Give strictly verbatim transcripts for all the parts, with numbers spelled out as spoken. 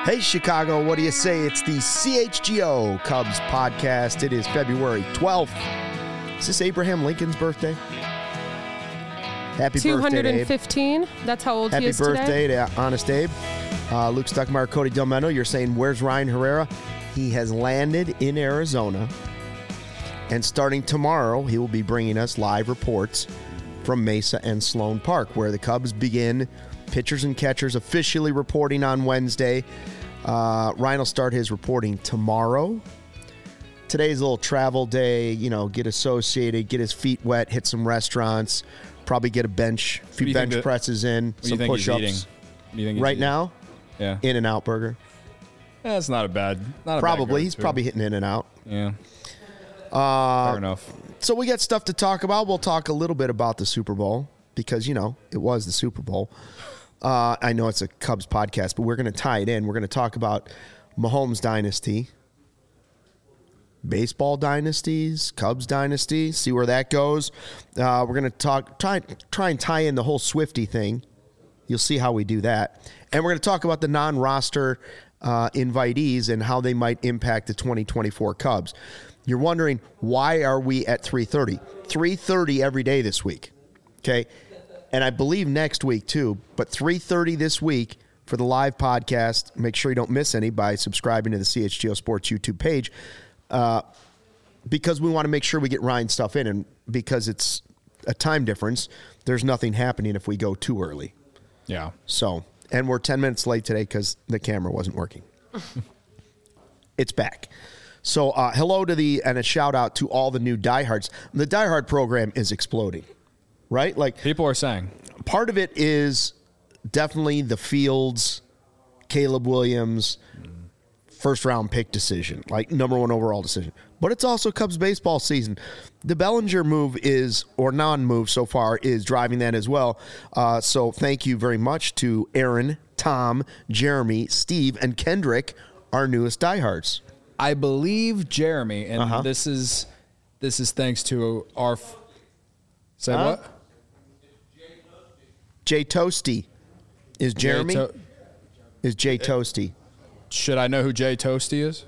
Hey, Chicago, what do you say? It's the C H G O Cubs podcast. It is February twelfth. Is this Abraham Lincoln's birthday? Happy two hundred fifteen. birthday, Abe. That's how old Happy he is birthday today. to Honest Abe. Uh, Luke Stuckmeyer, Cody Delmeno. You're saying, where's Ryan Herrera? He has landed in Arizona. And starting tomorrow, he will be bringing us live reports from Mesa and Sloan Park, where the Cubs begin pitchers and catchers officially reporting on Wednesday. Uh, Ryan will start his reporting tomorrow. Today's a little travel day, you know, get associated, get his feet wet, hit some restaurants, probably get a bench, a few bench that, presses in, some push-ups. Right now, yeah, In-N-Out Burger. That's not a bad, not a Probably. bad He's probably hitting In-N-Out. Yeah. Uh, Fair enough. So we got stuff to talk about. We'll talk a little bit about the Super Bowl because, you know, it was the Super Bowl. Uh, I know it's a Cubs podcast, but we're going to tie it in. We're going to talk about Mahomes dynasty, baseball dynasties, Cubs dynasty, see where that goes. Uh, we're going to talk, try, try and tie in the whole Swiftie thing. You'll see how we do that. And we're going to talk about the non-roster uh, invitees and how they might impact the twenty twenty-four Cubs. You're wondering, why are we at three thirty? three thirty every day this week, okay? And I believe next week too, but three thirty this week for the live podcast. Make sure you don't miss any by subscribing to the C H G O Sports YouTube page uh, because we want to make sure we get Ryan's stuff in, and because it's a time difference, there's nothing happening if we go too early. Yeah. So, and we're ten minutes late today because the camera wasn't working. It's back. So uh, hello to the, and a shout out to all the new diehards. The diehard program is exploding. Right? Like, people are saying part of it is definitely the Fields, Caleb Williams, first round pick decision, like number one overall decision. But it's also Cubs baseball season. The Bellinger move is, or non-move so far, is driving that as well. Uh, so thank you very much to Aaron, Tom, Jeremy, Steve, and Kendrick, our newest diehards. I believe Jeremy, and Uh-huh. this is this is thanks to our. F- Say Huh? what? Jay Toasty. Is Jeremy? Jay to- is Jay Toasty. Should I know who Jay Toasty is?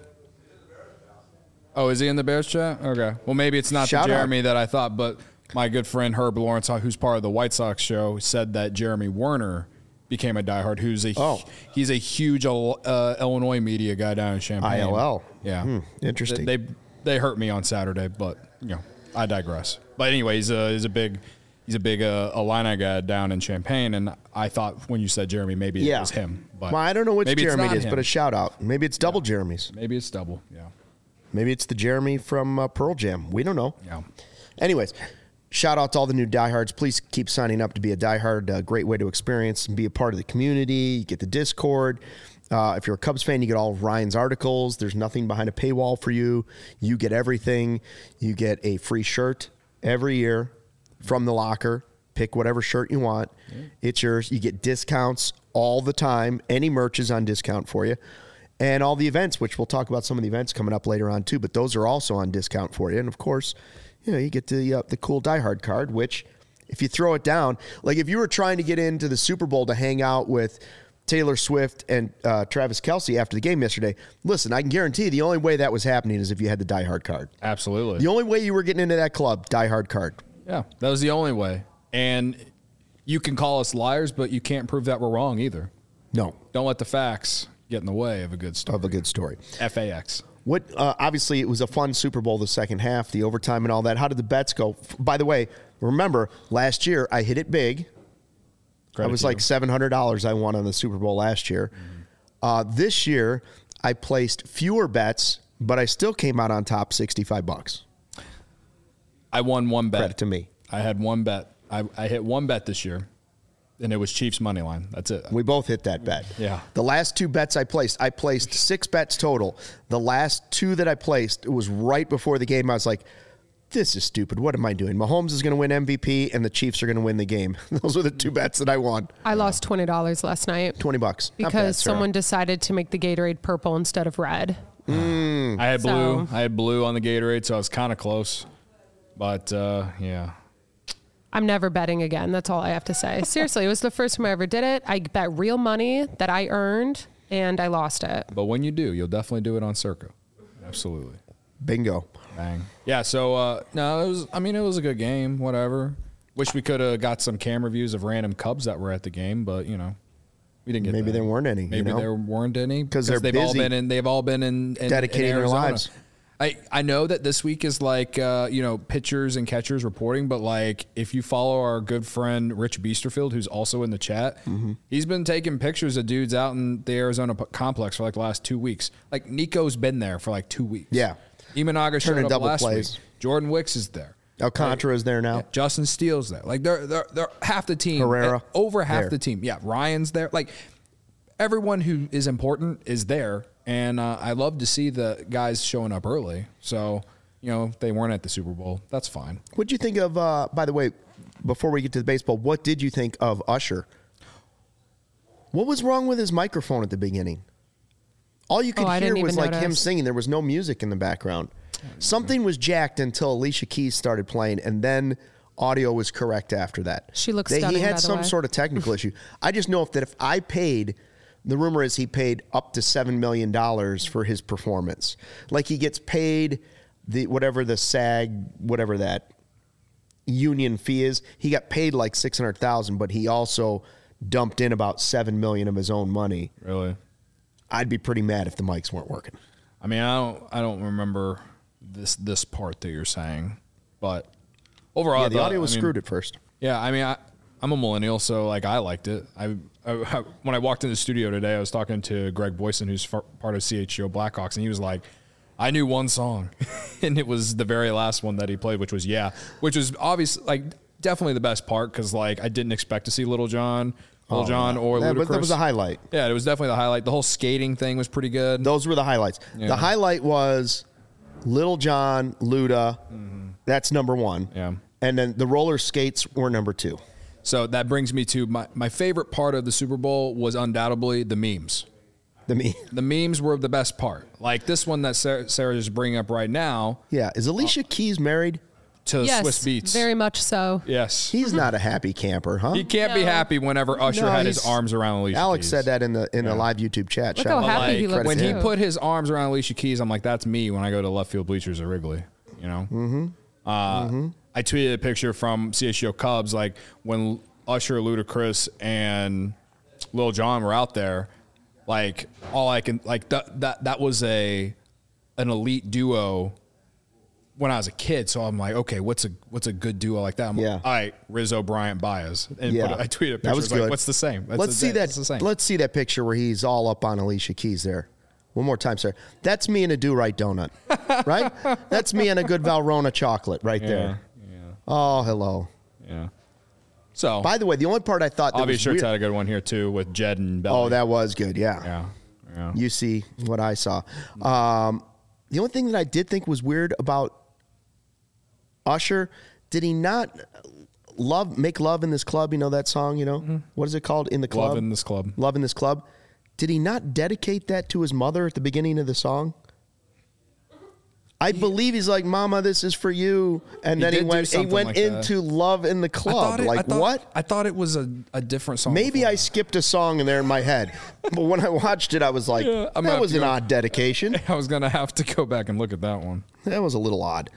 Oh, is he in the Bears chat? Okay. Well, maybe it's not Shout the Jeremy out. that I thought, but my good friend Herb Lawrence, who's part of the White Sox show, said that Jeremy Werner became a diehard. Who's a Oh. he's a huge uh, Illinois media guy down in Champaign. I L L. Yeah. Hmm, interesting. They, they they hurt me on Saturday, but you know I digress. But anyway, he's a he's a big. He's a big uh, Illini guy down in Champaign, and I thought when you said Jeremy, maybe Yeah. it was him. But Well, I don't know which maybe it's Jeremy not it is, him. but a shout out. Maybe it's double Jeremy's. Maybe it's double. Yeah. Maybe it's the Jeremy from uh, Pearl Jam. We don't know. Yeah. Anyways, shout out to all the new diehards. Please keep signing up to be a diehard. A great way to experience and be a part of the community. You get the Discord. Uh, if you're a Cubs fan, you get all of Ryan's articles. There's nothing behind a paywall for you. You get everything. You get a free shirt every year from the locker. Pick whatever shirt you want. Yeah. It's yours. You get discounts all the time. Any merch is on discount for you. And all the events, which we'll talk about some of the events coming up later on too, but those are also on discount for you. And of course, you know, you get the uh, the cool diehard card, which if you throw it down, like if you were trying to get into the Super Bowl to hang out with Taylor Swift and uh, Travis Kelce after the game yesterday, listen, I can guarantee you the only way that was happening is if you had the diehard card. Absolutely. The only way you were getting into that club, diehard card. Yeah, that was the only way. And you can call us liars, but you can't prove that we're wrong either. No. Don't let the facts get in the way of a good story. Of a good story. F A X. What? Uh, obviously, it was a fun Super Bowl, the second half, the overtime and all that. How did the bets go? By the way, remember, last year I hit it big. Credit I was to like you. seven hundred dollars I won on the Super Bowl last year. Mm-hmm. Uh, this year, I placed fewer bets, but I still came out on top sixty-five bucks. I won one bet. Credit to me. I had one bet. I, I hit one bet this year, and it was Chiefs money line. That's it. We both hit that bet. Yeah. The last two bets I placed, I placed six bets total. The last two that I placed, it was right before the game. I was like, this is stupid. What am I doing? Mahomes is going to win M V P, and the Chiefs are going to win the game. Those were the two bets that I won. I lost twenty dollars last night. twenty bucks. Not Because bad, Sarah. someone decided to make the Gatorade purple instead of red. Mm. I had blue. So- I had blue on the Gatorade, so I was kind of close. But, uh, yeah. I'm never betting again. That's all I have to say. Seriously, it was the first time I ever did it. I bet real money that I earned and I lost it. But when you do, you'll definitely do it on Circa. Absolutely. Bingo. Bang. Yeah, so, uh, no, it was, I mean, it was a good game, whatever. Wish we could have got some camera views of random Cubs that were at the game, but, you know, we didn't get Maybe that. there weren't any. Maybe you know? there weren't any. Because they're they've busy all been in, they've all been in, in dedicating in their Arizona. lives. I, I know that this week is like, uh, you know, pitchers and catchers reporting, but like if you follow our good friend Rich Beasterfield, who's also in the chat, mm-hmm. he's been taking pictures of dudes out in the Arizona p- complex for like the last two weeks. Like Nico's been there for like two weeks. Yeah. Imanaga showed Turning up double last plays. week. Jordan Wicks is there. Alcantara is there now. Yeah, Justin Steele's there. Like they're they're, they're half the team. Herrera. Over half there. the team. Yeah, Ryan's there. Like everyone who is important is there. And uh, I love to see the guys showing up early. So, you know, if they weren't at the Super Bowl, that's fine. What'd you think of, uh, by the way, before we get to the baseball, what did you think of Usher? What was wrong with his microphone at the beginning? All you could Oh, I hear didn't was even like him notice. singing. There was no music in the background. Something was jacked until Alicia Keys started playing, and then audio was correct after that. She looks They- stunning, He by had the some way. sort of technical issue. I just know if that if I paid, the rumor is he paid up to seven million dollars for his performance. Like he gets paid the whatever the SAG, whatever that union fee is. He got paid like six hundred thousand dollars, but he also dumped in about seven million dollars of his own money. Really? I'd be pretty mad if the mics weren't working. I mean, I don't I don't remember this this part that you're saying, but overall, Yeah, I the thought- audio was I mean, screwed at first. Yeah, I mean, I, I'm a millennial, so like I liked it. I, I, I when I walked in the studio today, I was talking to Greg Boyson, who's far, part of C H G O Blackhawks, and he was like, "I knew one song, and it was the very last one that he played, which was Yeah," which was obviously like definitely the best part because like I didn't expect to see Little John, Little Oh, John, yeah. or That- Ludacris. but that was a highlight. Yeah, it was definitely the highlight. The whole skating thing was pretty good. Those were the highlights. Yeah. The highlight was Little John, Luda. Mm-hmm. That's number one. Yeah. And then the roller skates were number two. So that brings me to my, my favorite part of the Super Bowl was undoubtedly the memes. The me. The memes were the best part. Like this one that Sarah, Sarah is bringing up right now Yeah. Is Alicia Keys married? to Yes, Swiss Beats. very much so. Yes. He's not a happy camper, huh? He can't be No. happy whenever Usher No, had his he's- arms around Alicia Alex Keys. said that in the in the live YouTube chat. Look Shout how out. happy he Like, looks when he too. put his arms around Alicia Keys, I'm like, that's me when I go to left field bleachers at Wrigley. You know? Mm-hmm. Uh, mm-hmm. I tweeted a picture from C H G O Cubs, like when Usher, Ludacris, and Lil Jon were out there. Like all I can like that that that was a an elite duo when I was a kid. So I'm like, okay, what's a what's a good duo like that? I'm Yeah. like, all right, Rizzo, Bryant, Baez, and Yeah. put, I tweeted a picture. That was it's like, good. what's the same? That's let's the- see that. that's the same. Let's see that picture where he's all up on Alicia Keys there. One more time, sir. That's me in a do-right donut, right? That's me in a good Valrhona chocolate right yeah, there. yeah, Oh, hello. yeah. So By the way, the only part I thought that Bobby was Shirts weird. had a good one here too with Jed and Belly. Oh, that was good. Yeah. yeah, yeah. You see what I saw. Um, the only thing that I did think was weird about Usher, did he not love make love in this club? You know that song? You know what is it called? In the club. Love in this club. Love in this club. Did he not dedicate that to his mother at the beginning of the song? I believe he's like, "Mama, this is for you," and He then he did do went. He something went like that. into "Love in the I Club." thought it- I like thought- what? I thought it was a, a different song. Maybe before. I skipped a song in there in my head, but when I watched it, I was like, Yeah, I'm gonna "That have was to an go- odd dedication. I was gonna have to go back and look at that one. That was a little odd."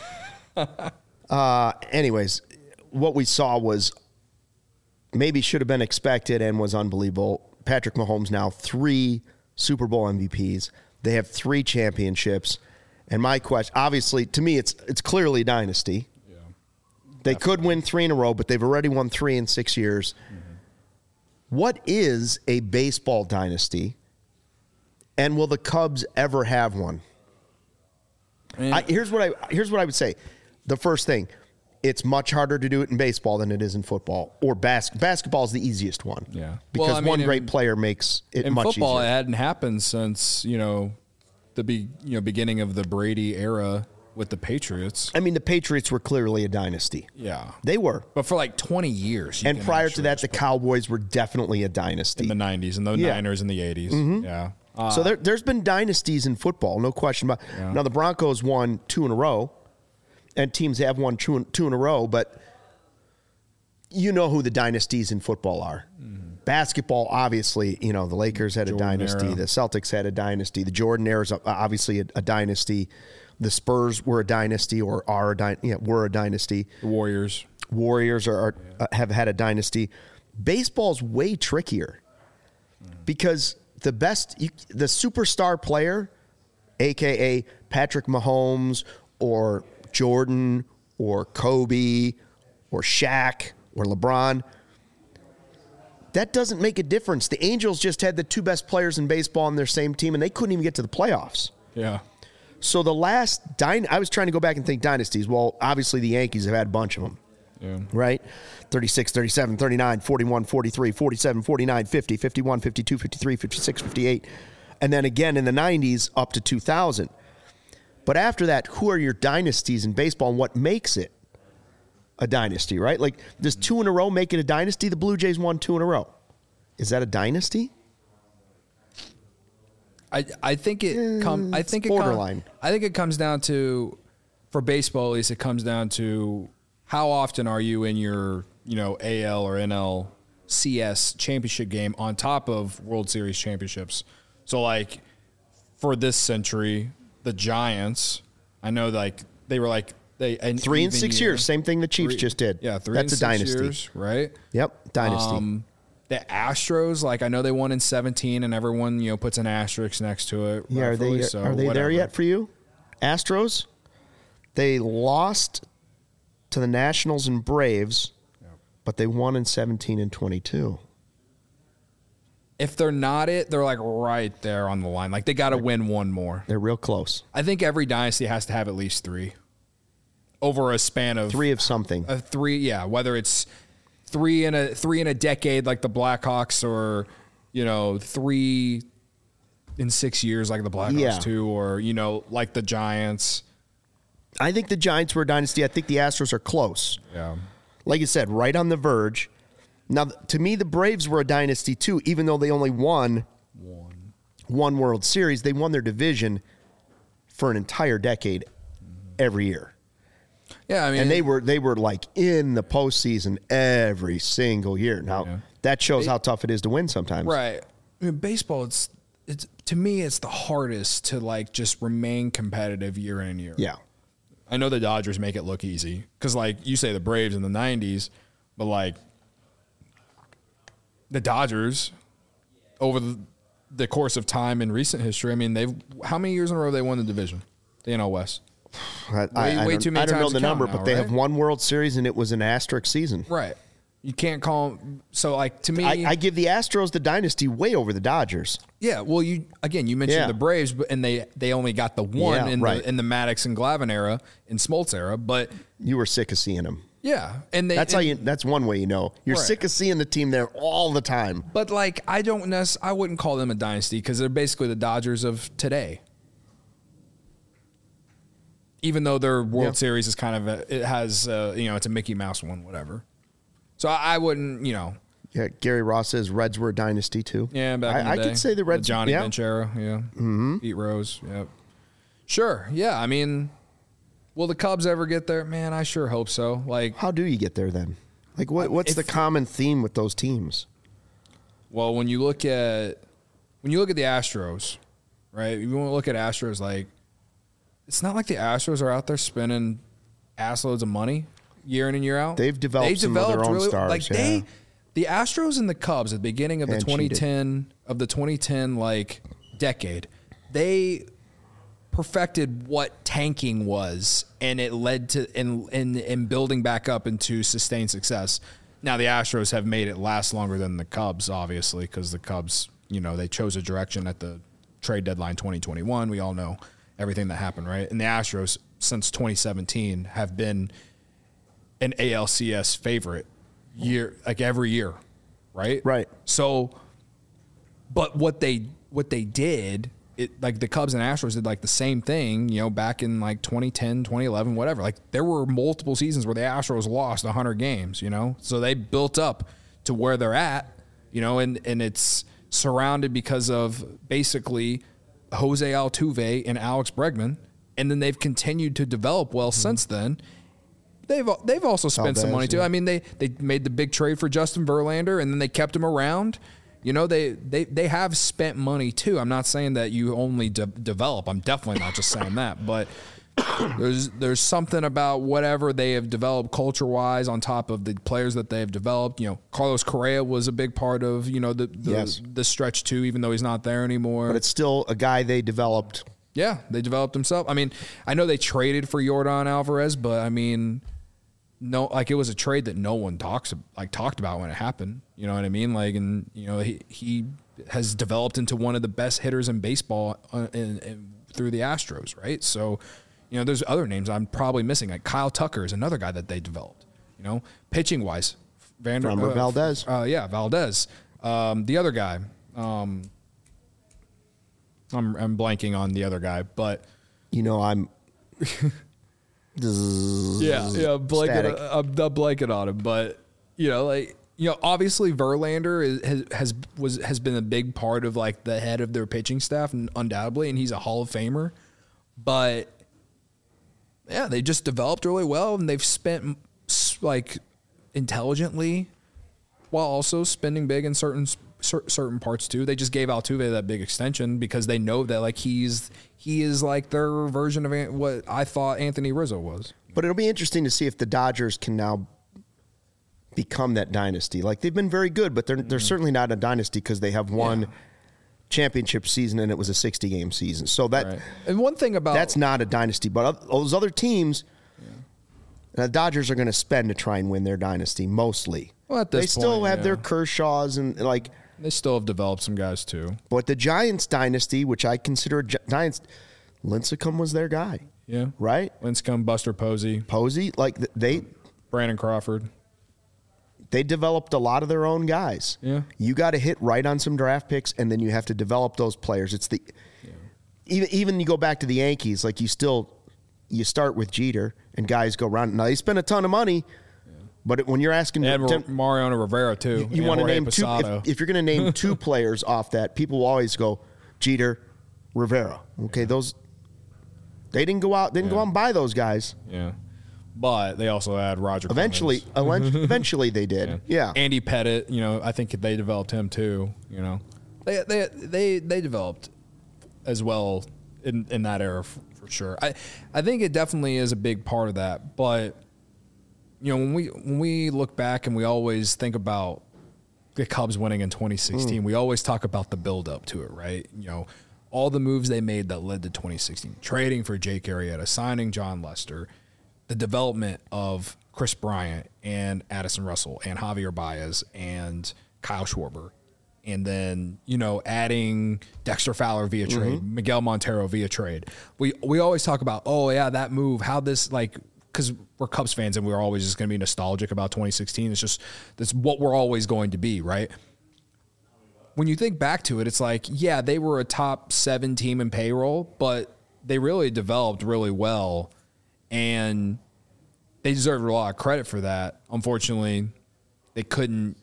uh, anyways, what we saw was maybe should have been expected and was unbelievable. Patrick Mahomes now three Super Bowl M V Ps. They have three championships. And my question, obviously, to me, it's it's clearly a dynasty. Yeah. They could win three in a row, but they've already won three in six years. Mm-hmm. What is a baseball dynasty? And will the Cubs ever have one? I, here's what I here's what I would say. The first thing, it's much harder to do it in baseball than it is in football. Or bas- basketball is the easiest one. Yeah. Because Well, I mean, one in- great player makes it In much football, easier. it hadn't happened since you know the be, you know beginning of the Brady era with the Patriots. I mean, the Patriots were clearly a dynasty. Yeah, They were. but for like twenty years. you And can prior to actually that, the just put- Cowboys were definitely a dynasty. in the nineties and the Yeah. Niners in the eighties. Yeah. Uh, So there, there's been dynasties in football, no question about. Yeah. Now the Broncos won two in a row, and teams have won two in, two in a row. But you know who the dynasties in football are. basketball, obviously, you know, the Lakers had a Jordan dynasty. era. The Celtics had a dynasty. The Jordan era is obviously a, a dynasty. The Spurs were a dynasty or are a, dy- yeah, were a dynasty. The Warriors. Warriors are, are uh, have had a dynasty. Baseball's way trickier because the best, you, the superstar player, A K A Patrick Mahomes or Jordan or Kobe or Shaq or LeBron, that doesn't make a difference. The Angels just had the two best players in baseball on their same team, and they couldn't even get to the playoffs. Yeah. So the last dy- I was trying to go back and think dynasties. Well, obviously the Yankees have had a bunch of them. Yeah. Right? thirty-six, thirty-seven, thirty-nine, forty-one, forty-three, forty-seven, forty-nine, fifty, fifty-one, fifty-two, fifty-three, fifty-six, fifty-eight. And then again in the nineties up to two thousand. But after that, who are your dynasties in baseball and what makes it a dynasty, right? Like, does two in a row make it a dynasty? The Blue Jays won two in a row. Is that a dynasty? I I think it come I think it's it borderline. Com- I think it comes down to, for baseball at least, it comes down to how often are you in your, you know, A L or N L C S championship game on top of World Series championships. So like for this century, the Giants, I know like they were like they an Three and even six year. years, same thing the Chiefs Three- just did. Yeah, three That's and a six dynasty. years, right? Yep, dynasty. Um, the Astros, like I know they won in seventeen, and everyone you know puts an asterisk next to it. yeah, are they rightfully so, are they whatever. there yet for you? Astros? They lost to the Nationals and Braves, but they won in seventeen and twenty-two. If they're not it, they're like right there on the line. Like they got to win one more. They're real close. I think every dynasty has to have at least three over a span of Three of something. a three. Yeah, whether it's three in a three in a decade like the Blackhawks, or you know three in six years like the Blackhawks Yeah. too, or you know like the Giants. I think the Giants were a dynasty. I think the Astros are close. Yeah. Like you said, right on the verge. Now, to me, the Braves were a dynasty too, even though they only won One. one World Series. They won their division for an entire decade every year. Yeah, I mean, And they were they were like in the postseason every single year. Now, Yeah. that shows how tough it is to win sometimes. right. I mean, baseball, it's it's to me, it's the hardest to like just remain competitive year in and year. Yeah. I know the Dodgers make it look easy because, like you say, the Braves in the nineties, but like the Dodgers over the, the course of time in recent history, I mean, they've how many years in a row they won the division, the N L West? I, I, Way- I way don't, too many I don't know times the to count number, now, but they have right? one World Series, and it was an asterisk season. Right. You can't call them. So, like to me, I, I give the Astros the dynasty way over the Dodgers. yeah. Well, you again, you mentioned Yeah. the Braves, but and they they only got the one Yeah, in right. the in the Maddox and Glavine era, in Smoltz era, but You were sick of seeing them. yeah, and they That's and, how you. That's one way you know you're Right. sick of seeing the team there all the time. But like, I don't necess- I wouldn't call them a dynasty because they're basically the Dodgers of today. Even though their World Yeah. Series is kind of a, it has uh, you know it's a Mickey Mouse one, whatever. So I, I wouldn't you know Yeah, Gary Ross says Reds were a dynasty too. yeah back I, in the I day, could say the Reds. Johnny yeah. Bench era, yeah, mm-hmm. Pete Rose, yeah, sure, yeah. I mean, will the Cubs ever get there? Man, I sure hope so. Like, How do you get there then? Like, what, what's If- the common theme with those teams? well, when you look at when you look at the Astros, right? You want to look at Astros like. It's not like the Astros are out there spending ass loads of money year in and year out. They've developed some of their own stars, Like yeah. they, the Astros and the Cubs at the beginning of the And twenty cheated. ten of the twenty ten like decade, they perfected what tanking was, and it led to in in in building back up into sustained success. Now the Astros have made it last longer than the Cubs, obviously, because the Cubs, you know, they chose a direction at the trade deadline twenty twenty-one. We all know everything that happened, right? And the Astros, since twenty seventeen, have been an A L C S favorite year, like every year, right? Right. So, but what they what they did, it like the Cubs and Astros did like the same thing, you know, back in like twenty ten, twenty eleven, whatever. Like there were multiple seasons where the Astros lost one hundred games, you know? So they built up to where they're at, you know, and and it's surrounded because of basically Jose Altuve and Alex Bregman, and then they've continued to develop well since then. they've they've also spent Valdez, some money too. yeah. I mean, they they made the big trade for Justin Verlander, and then they kept him around. You know, they they they have spent money too. I'm not saying that you only de- develop. I'm definitely not just saying that, but there's there's something about whatever they have developed culture wise on top of the players that they have developed. You know, Carlos Correa was a big part of you know the the, Yes. the stretch too, even though he's not there anymore. But it's still a guy they developed. Yeah, they developed himself. I mean, I know they traded for Yordan Alvarez, but I mean, no, like it was a trade that no one talks like talked about when it happened. You know what I mean? Like, and you know, he he has developed into one of the best hitters in baseball uh, in, in, through the Astros, right? So, you know, there's other names I'm probably missing. Like Kyle Tucker is another guy that they developed. You know, pitching wise, Vander Framber uh, Valdez. Uh, yeah, Valdez. Um, the other guy. Um, I'm I'm blanking on the other guy, but You know, I'm. yeah, yeah, blanking, Static. I'm, I'm blanking on him, but you know, like you know, obviously Verlander is, has has was has been a big part of like the head of their pitching staff, and undoubtedly, and he's a Hall of Famer. But yeah, they just developed really well, and they've spent like intelligently, while also spending big in certain cer- certain parts too. They just gave Altuve that big extension because they know that like he's he is like their version of An- what I thought Anthony Rizzo was. But it'll be interesting to see if the Dodgers can now become that dynasty. Like they've been very good, but they're they're certainly not a dynasty because they have one Yeah. championship season and it was a sixty game season. So that Right. And one thing about that's not a dynasty. But oth- those other teams, the Dodgers are going to spend to try and win their dynasty mostly. Well, at this they still point, have yeah. their Kershaws and like. they still have developed some guys too. But the Giants dynasty, which I consider a Gi- Giants, Lincecum was their guy, Yeah, right? Lincecum, Buster Posey, Posey, like th- they Brandon Crawford. they developed a lot of their own guys. Yeah. You got to hit right on some draft picks, and then you have to develop those players. It's the even even you go back to the Yankees, like you still you start with Jeter, and guys go around. Now they spend a ton of money, but it, when you're asking, And to- Mariano Rivera too. you and want to Jorge name two. Posada. If, if you're going to name two players off that, people will always go Jeter, Rivera. Okay, those they didn't go out, didn't go Yeah. out and buy those guys. Yeah, but they also had Roger. Eventually, Clemens. eventually, eventually they did. Yeah. Andy Pettit. You know, I think they developed him too. You know, they they they they developed as well in in that era for, for sure. I I think it definitely is a big part of that. But you know, when we when we look back and we always think about the Cubs winning in twenty sixteen, we always talk about the build up to it, right? You know, all the moves they made that led to twenty sixteen, trading for Jake Arrieta, signing John Lester, the development of Chris Bryant and Addison Russell and Javier Baez and Kyle Schwarber. And then, you know, adding Dexter Fowler via trade, Miguel Montero via trade. We we always talk about, oh, yeah, that move, how this, like, because we're Cubs fans and we're always just going to be nostalgic about twenty sixteen. It's just, that's what we're always going to be, right? When you think back to it, it's like, yeah, they were a top seven team in payroll, but they really developed really well. And they deserve a lot of credit for that. Unfortunately, they couldn't.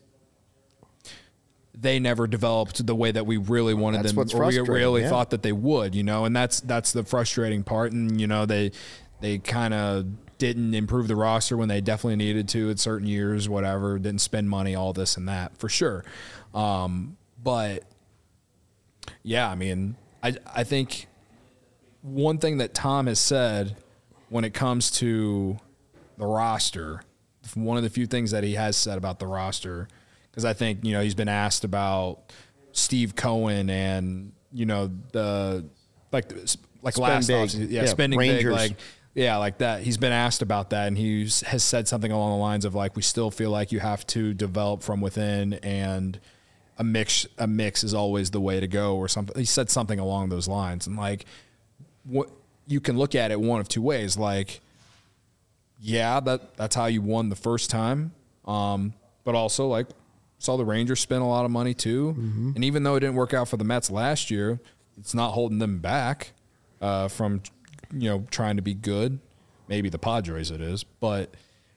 They never developed the way that we really wanted That's them, what's or we frustrating, really yeah. thought that they would. You know, and that's that's the frustrating part. And you know, they they kind of didn't improve the roster when they definitely needed to at certain years. Whatever, didn't spend money, all this and that for sure. Um, but yeah, I mean, I I think one thing that Tom has said when it comes to the roster, one of the few things that he has said about the roster, because I think, you know, he's been asked about Steve Cohen and, you know, the like like Spend last big. offseason, yeah, Yeah, spending Rangers. big, like yeah, like that. He's been asked about that, and he has said something along the lines of like, we still feel like you have to develop from within, and a mix a mix is always the way to go, or something. He said something along those lines, and like, what you can look at it one of two ways. Like, yeah, that that's how you won the first time, um, but also like saw the Rangers spend a lot of money too, Mm-hmm. and even though it didn't work out for the Mets last year, it's not holding them back uh, from you know trying to be good. Maybe the Padres it is, but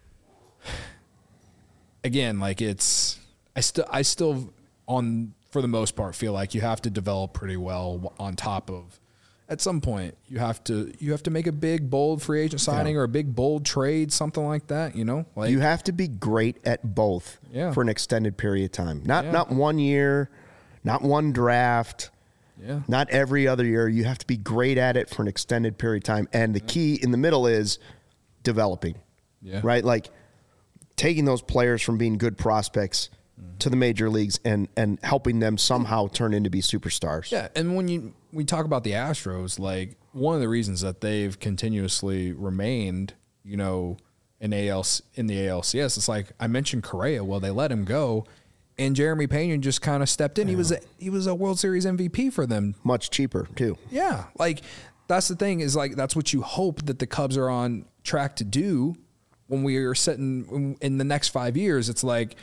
again, like it's I still I still on for the most part feel like you have to develop pretty well on top of at some point you have to you have to make a big bold free agent signing yeah. or a big bold trade, something like that. You know, like you have to be great at both yeah. for an extended period of time. Not yeah. not one year, not one draft. Yeah. Not every other year. You have to be great at it for an extended period of time. And the yeah. key in the middle is developing. Yeah. Right? Like taking those players from being good prospects mm-hmm. to the major leagues and and helping them somehow turn into be superstars. Yeah. And when you we talk about the Astros, like one of the reasons that they've continuously remained, you know, in A L in the A L C S, it's like I mentioned Correa. Well, they let him go. And Jeremy Pena just kind of stepped in. Yeah. He was a, he was a World Series M V P for them. Much cheaper, too. Yeah. Like, that's the thing is, like, that's what you hope that the Cubs are on track to do when we are sitting in the next five years. It's like,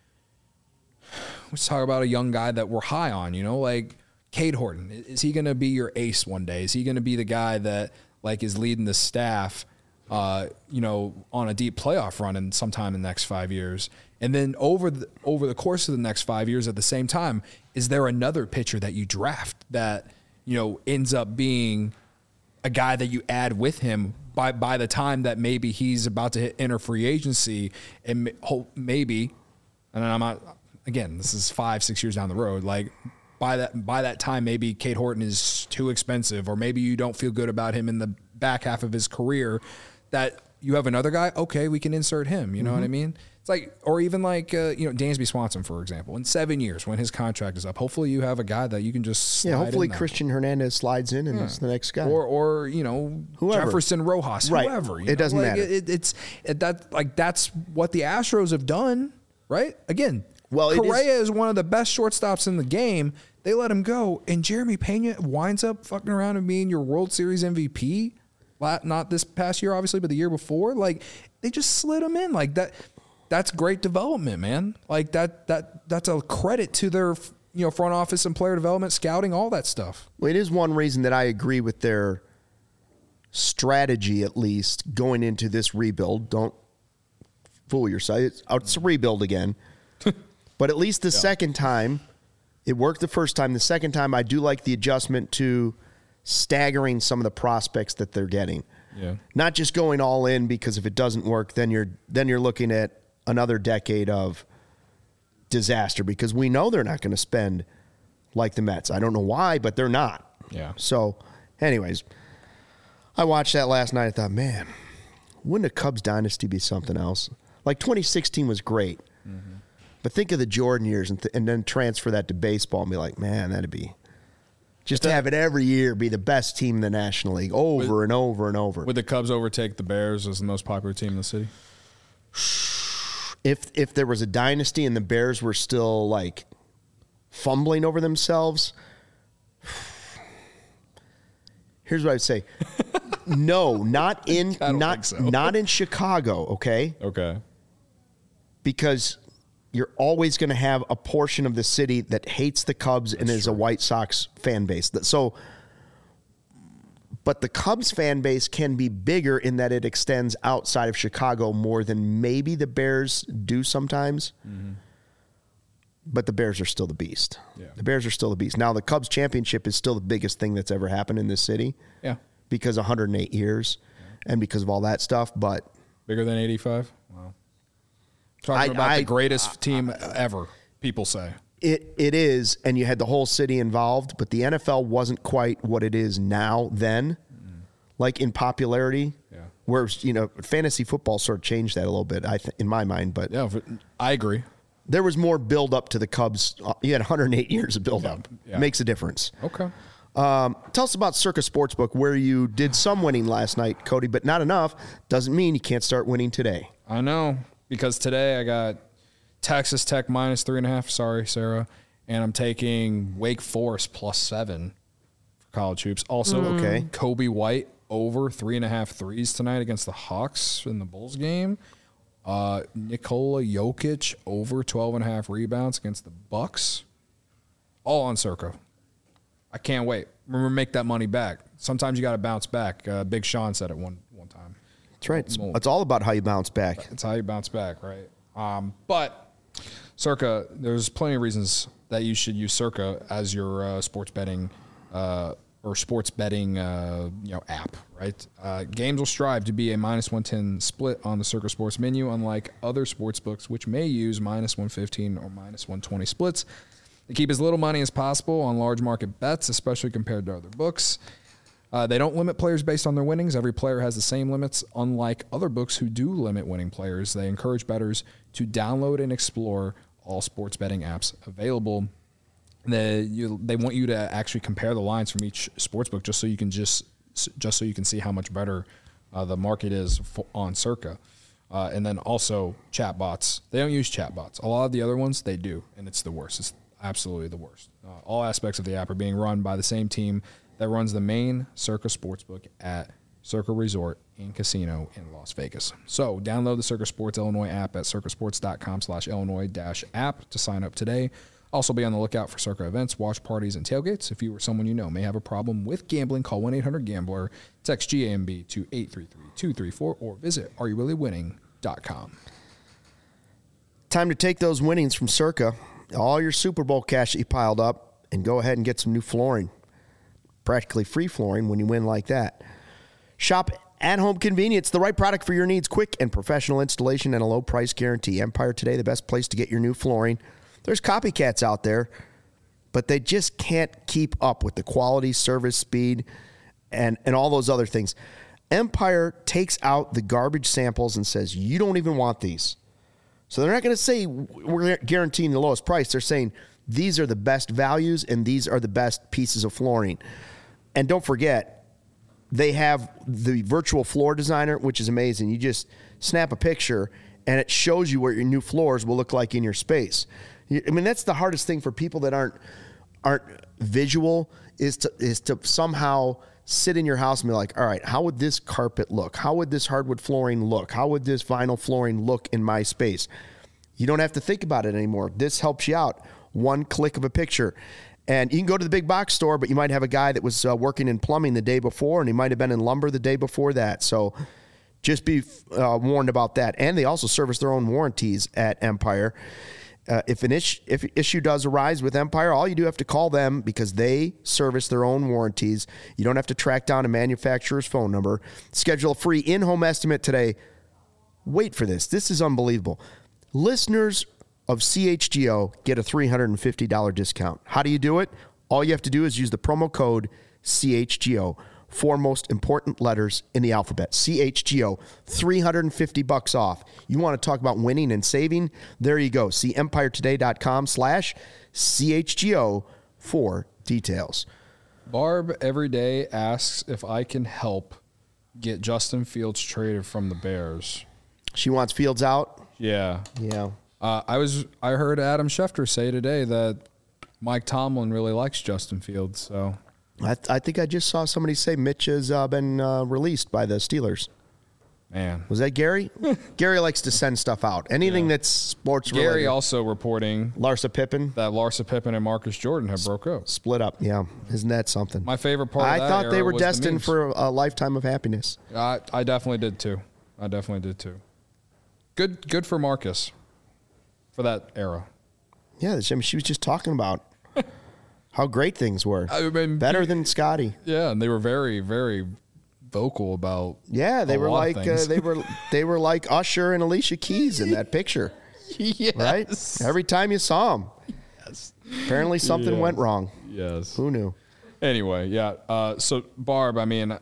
let's talk about a young guy that we're high on, you know, like Cade Horton. Is he going to be your ace one day? Is he going to be the guy that, like, is leading the staff, uh, you know, on a deep playoff run in sometime in the next five years? And then over the over the course of the next five years at the same time, is there another pitcher that you draft that, you know, ends up being a guy that you add with him by, by the time that maybe he's about to hit enter free agency and maybe, and I'm not, again, this is five, six years down the road, like by that by that time, maybe Cade Horton is too expensive or maybe you don't feel good about him in the back half of his career that you have another guy, okay, we can insert him, you know mm-hmm. what I mean? It's like, or even like, uh, you know, Dansby Swanson, for example, in seven years when his contract is up, hopefully you have a guy that you can just slide yeah. Hopefully in Christian Hernandez slides in and yeah. is the next guy, or or you know, whoever. Jefferson Rojas, right. whoever. You it know? doesn't like, matter. It, it's it, that like that's what the Astros have done, right? Again, well, Correa is, is one of the best shortstops in the game. They let him go, and Jeremy Pena winds up fucking around and being your World Series M V P. Not this past year, obviously, but the year before. Like they just slid him in like that. That's great development, man. Like that, that, that's a credit to their, you know, front office and player development, scouting, all that stuff. Well, it is one reason that I agree with their strategy, at least going into this rebuild. Don't fool yourself. It's, it's a rebuild again, but at least the yeah. second time it worked. The first time, the second time, I do like the adjustment to staggering some of the prospects that they're getting. Yeah. Not just going all in because if it doesn't work, then you're then you're looking at another decade of disaster because we know they're not going to spend like the Mets. I don't know why, but they're not. Yeah. So, anyways, I watched that last night. I thought, man, wouldn't a Cubs dynasty be something else? Like twenty sixteen was great, mm-hmm. but think of the Jordan years and, th- and then transfer that to baseball and be like, man, that'd be just to have it every year be the best team in the National League over would, and over and over. Would the Cubs overtake the Bears as the most popular team in the city? If if there was a dynasty and the Bears were still like fumbling over themselves, here's what I'd say. No, not in not so. not in Chicago, okay? Okay. Because you're always going to have a portion of the city that hates the Cubs That's and is true. a White Sox fan base. So but the Cubs fan base can be bigger in that it extends outside of Chicago more than maybe the Bears do sometimes. Mm-hmm. But the Bears are still the beast. Yeah. The Bears are still the beast. Now, the Cubs championship is still the biggest thing that's ever happened in this city. Yeah. Because one hundred eight years yeah. and because of all that stuff. But bigger than eighty-five? Wow. Talking I, about I, the greatest I, team I, ever, people say. It It is, and you had the whole city involved, but the N F L wasn't quite what it is now then, mm. like in popularity. Yeah. Whereas, you know, fantasy football sort of changed that a little bit, I th- in my mind. But yeah, I agree. There was more build-up to the Cubs. You had one hundred eight years of build-up. Yeah. Yeah. Makes a difference. Okay. Um, tell us about Circa Sportsbook, where you did some winning last night, Cody, but not enough. Doesn't mean you can't start winning today. I know, because today I got Texas Tech minus three and a half. Sorry, Sarah. And I'm taking Wake Forest plus seven for college hoops. Also, mm. okay. Kobe White over three and a half threes tonight against the Hawks in the Bulls game. Uh, Nikola Jokic over twelve and a half rebounds against the Bucks. All on Circa. I can't wait. Remember, make that money back. Sometimes you got to bounce back. Uh, Big Sean said it one one time. That's right. It's, it's all about how you bounce back. It's how you bounce back, right? Um, but Circa, there's plenty of reasons that you should use Circa as your uh, sports betting uh, or sports betting, uh, you know, app, right? Uh, games will strive to be a minus one ten split on the Circa Sports menu, unlike other sports books, which may use minus one fifteen or minus one twenty splits. They keep as little money as possible on large market bets, especially compared to other books. Uh, they don't limit players based on their winnings. Every player has the same limits, unlike other books who do limit winning players. They encourage bettors to download and explore all sports betting apps available. They you, they want you to actually compare the lines from each sportsbook just so you can just just so you can see how much better uh, the market is for, on Circa. Uh, and then also chatbots. They don't use chatbots. A lot of the other ones they do, and it's the worst. It's absolutely the worst. Uh, all aspects of the app are being run by the same team that runs the main Circa Sportsbook at Circa Resort and Casino in Las Vegas. So download the Circa Sports Illinois app at circasports.com slash Illinois dash app to sign up today. Also be on the lookout for Circa events, watch parties, and tailgates. If you or someone you know may have a problem with gambling, call one eight hundred gambler, text G A M B to eight three three two three four, or visit are you really winning dot com. Time to take those winnings from Circa, all your Super Bowl cash that you piled up, and go ahead and get some new flooring. Practically free flooring when you win like that. Shop at-home convenience, the right product for your needs, quick and professional installation and a low price guarantee. Empire Today, the best place to get your new flooring. There's copycats out there, but they just can't keep up with the quality, service, speed, and, and all those other things. Empire takes out the garbage samples and says, you don't even want these. So they're not going to say we're guaranteeing the lowest price. They're saying these are the best values and these are the best pieces of flooring. And don't forget, they have the virtual floor designer, which is amazing. You just snap a picture and it shows you what your new floors will look like in your space. I mean, that's the hardest thing for people that aren't aren't visual is to is to somehow sit in your house and be like, all right, how would this carpet look? How would this hardwood flooring look? How would this vinyl flooring look in my space? You don't have to think about it anymore. This helps you out. One click of a picture. And you can go to the big box store, but you might have a guy that was uh, working in plumbing the day before, and he might have been in lumber the day before that. So just be uh, warned about that. And they also service their own warranties at Empire. Uh, if an issue, if issue does arise with Empire, all you do have to call them because they service their own warranties. You don't have to track down a manufacturer's phone number. Schedule a free in-home estimate today. Wait for this. This is unbelievable. Listeners of C H G O get a three hundred fifty dollars discount. How do you do it? All you have to do is use the promo code C H G O. Four most important letters in the alphabet. C H G O, three hundred fifty bucks off. You want to talk about winning and saving? There you go. See empiretoday.com slash CHGO for details. Barb every day asks if I can help get Justin Fields traded from the Bears. She wants Fields out? Yeah. Yeah. Uh, I was. I heard Adam Schefter say today that Mike Tomlin really likes Justin Fields, so... I, th- I think I just saw somebody say Mitch has uh, been uh, released by the Steelers. Man. Was that Gary? Gary likes to send stuff out. Anything yeah. that's sports Gary related. Gary also reporting Larsa Pippen. That Larsa Pippen and Marcus Jordan have broke up. Split up, yeah. Isn't that something? My favorite part I of that thought they era were was destined the for a lifetime of happiness. I, I definitely did too. I definitely did too. Good good for Marcus for that era. Yeah, I mean, she was just talking about how great things were. I mean, better than Scotty. Yeah, and they were very, very vocal about. Yeah, they were like uh, they were they were like Usher and Alicia Keys in that picture. Yes. Right? Every time you saw them. Yes. Apparently something yes. went wrong. Yes. Who knew? Anyway, yeah. Uh, so Barb, I mean,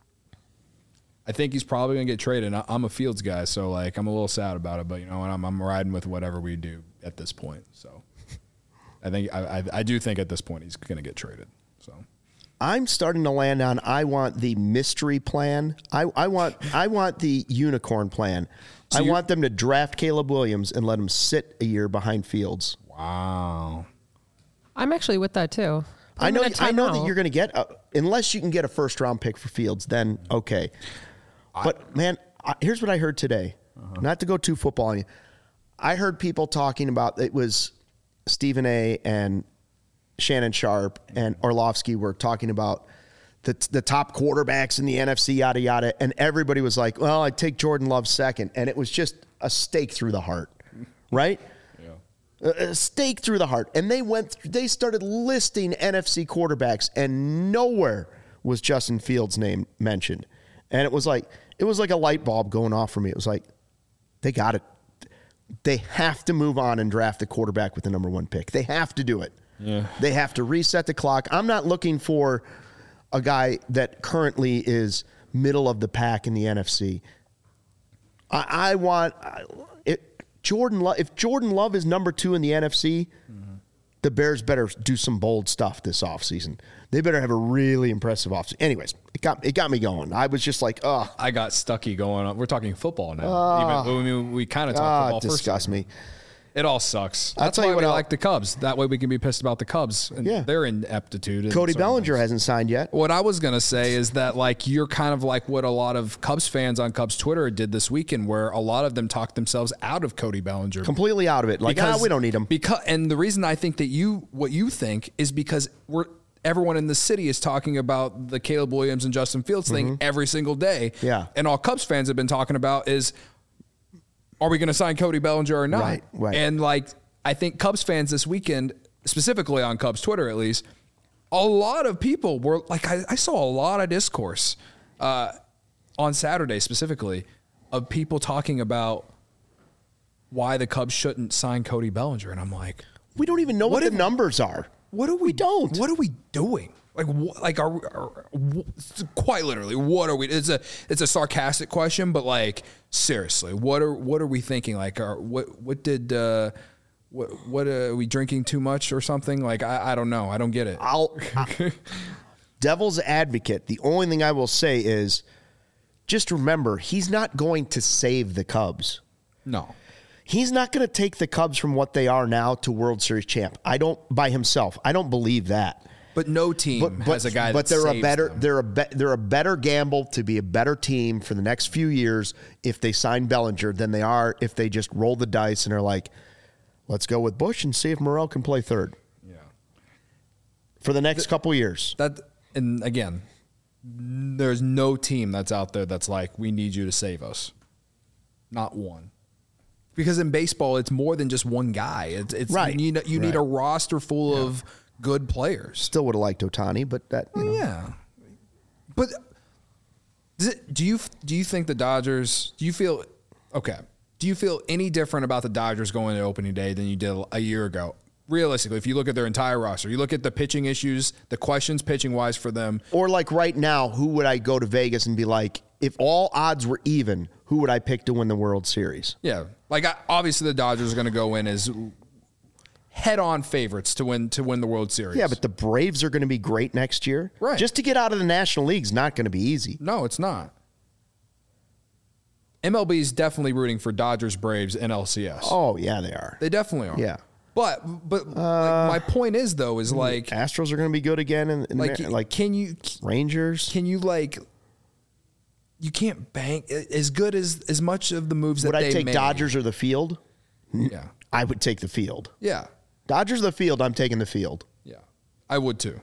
I think he's probably gonna get traded. I'm a Fields guy, so like I'm a little sad about it, but you know, I'm I'm riding with whatever we do at this point. So. I think I, I I do think at this point he's going to get traded. So I'm starting to land on I want the mystery plan. I, I want I want the unicorn plan. So I want them to draft Caleb Williams and let him sit a year behind Fields. Wow. I'm actually with that too. Put I know I know out. that you're going to get a, unless you can get a first round pick for Fields, then okay. I, but man, I, here's what I heard today. Uh-huh. Not to go too football on you. I heard people talking about it was Stephen A. and Shannon Sharp and Orlovsky were talking about the the top quarterbacks in the N F C, yada, yada. And everybody was like, well, I'd take Jordan Love second. And it was just a stake through the heart, right? Yeah. a stake through the heart. And they went, they started listing N F C quarterbacks, and nowhere was Justin Fields' name mentioned. And it was like, it was like a light bulb going off for me. It was like, they got it. They have to move on and draft a quarterback with the number one pick. They have to do it. Yeah. They have to reset the clock. I'm not looking for a guy that currently is middle of the pack in the N F C. I, I want it, Jordan Love. If Jordan Love is number two in the N F C, mm-hmm. the Bears better do some bold stuff this offseason. They better have a really impressive offseason. Anyways, it got it got me going. I was just like, oh. I got stucky going on. We're talking football now. Uh, Even, I mean, we kind of talked uh, football first. Disgust me. It all sucks. I'll That's tell why you what we I'll- like the Cubs. That way we can be pissed about the Cubs and Yeah. their ineptitude. in Cody certain Bellinger things. hasn't signed yet. What I was going to say is that, like, you're kind of like what a lot of Cubs fans on Cubs Twitter did this weekend, where a lot of them talked themselves out of Cody Bellinger. Completely out of it. Like, ah, we don't need him. Because, and the reason I think that you, what you think is because we're, everyone in the city is talking about the Caleb Williams and Justin Fields thing every single day. Yeah. And all Cubs fans have been talking about is, are we going to sign Cody Bellinger or not? Right, right. And, like, I think Cubs fans this weekend, specifically on Cubs Twitter at least, a lot of people were like, I, I saw a lot of discourse uh, on Saturday specifically of people talking about why the Cubs shouldn't sign Cody Bellinger. And I'm like, We don't even know what, What the if- numbers are. what are we, We don't. What are we doing? Like, wh- like, are, we- are wh- quite literally, what are we? It's a, it's a sarcastic question, but like, seriously, what are, what are we thinking? Like, are, what, what did, uh, what, what uh, are we drinking too much or something? Like, I, I don't know. I don't get it. I'll I- devil's advocate. The only thing I will say is just remember, he's not going to save the Cubs. No. He's not going to take the Cubs from what they are now to World Series champ. I don't by himself. I don't believe that. But no team But, but, has a guy but that they're a saves better them. they're a be, they're a better gamble to be a better team for the next few years if they sign Bellinger than they are if they just roll the dice and are like, let's go with Bush and see if Morrell can play third Yeah. for the next couple years. That, and again, there's no team that's out there that's like, we need you to save us. Not one. Because in baseball, it's more than just one guy. It's, it's Right. You need, you need Right. a roster full of good players. Still would have liked Ohtani, but that you know. Yeah. But does it, do you do you think the Dodgers, do you feel, okay, do you feel any different about the Dodgers going to opening day than you did a year ago? Realistically, if you look at their entire roster, you look at the pitching issues, the questions pitching wise for them. Or like right now, who would I go to Vegas and be like, if all odds were even, who would I pick to win the World Series? Yeah. Like, I, obviously the Dodgers are going to go in as head-on favorites to win to win the World Series. Yeah, but the Braves are going to be great next year. Right. Just to get out of the National League is not going to be easy. No, it's not. M L B is definitely rooting for Dodgers, Braves, and L C S. Oh, yeah, they are. They definitely are. Yeah. But but like, my point is though is like Astros are going to be good again. And, and like like can you Rangers. can you like you can't bank as good as as much of the moves that Would I they take made. Dodgers or the field? Yeah. I would take the field. Yeah. Dodgers or the field, I'm taking the field. Yeah. I would too.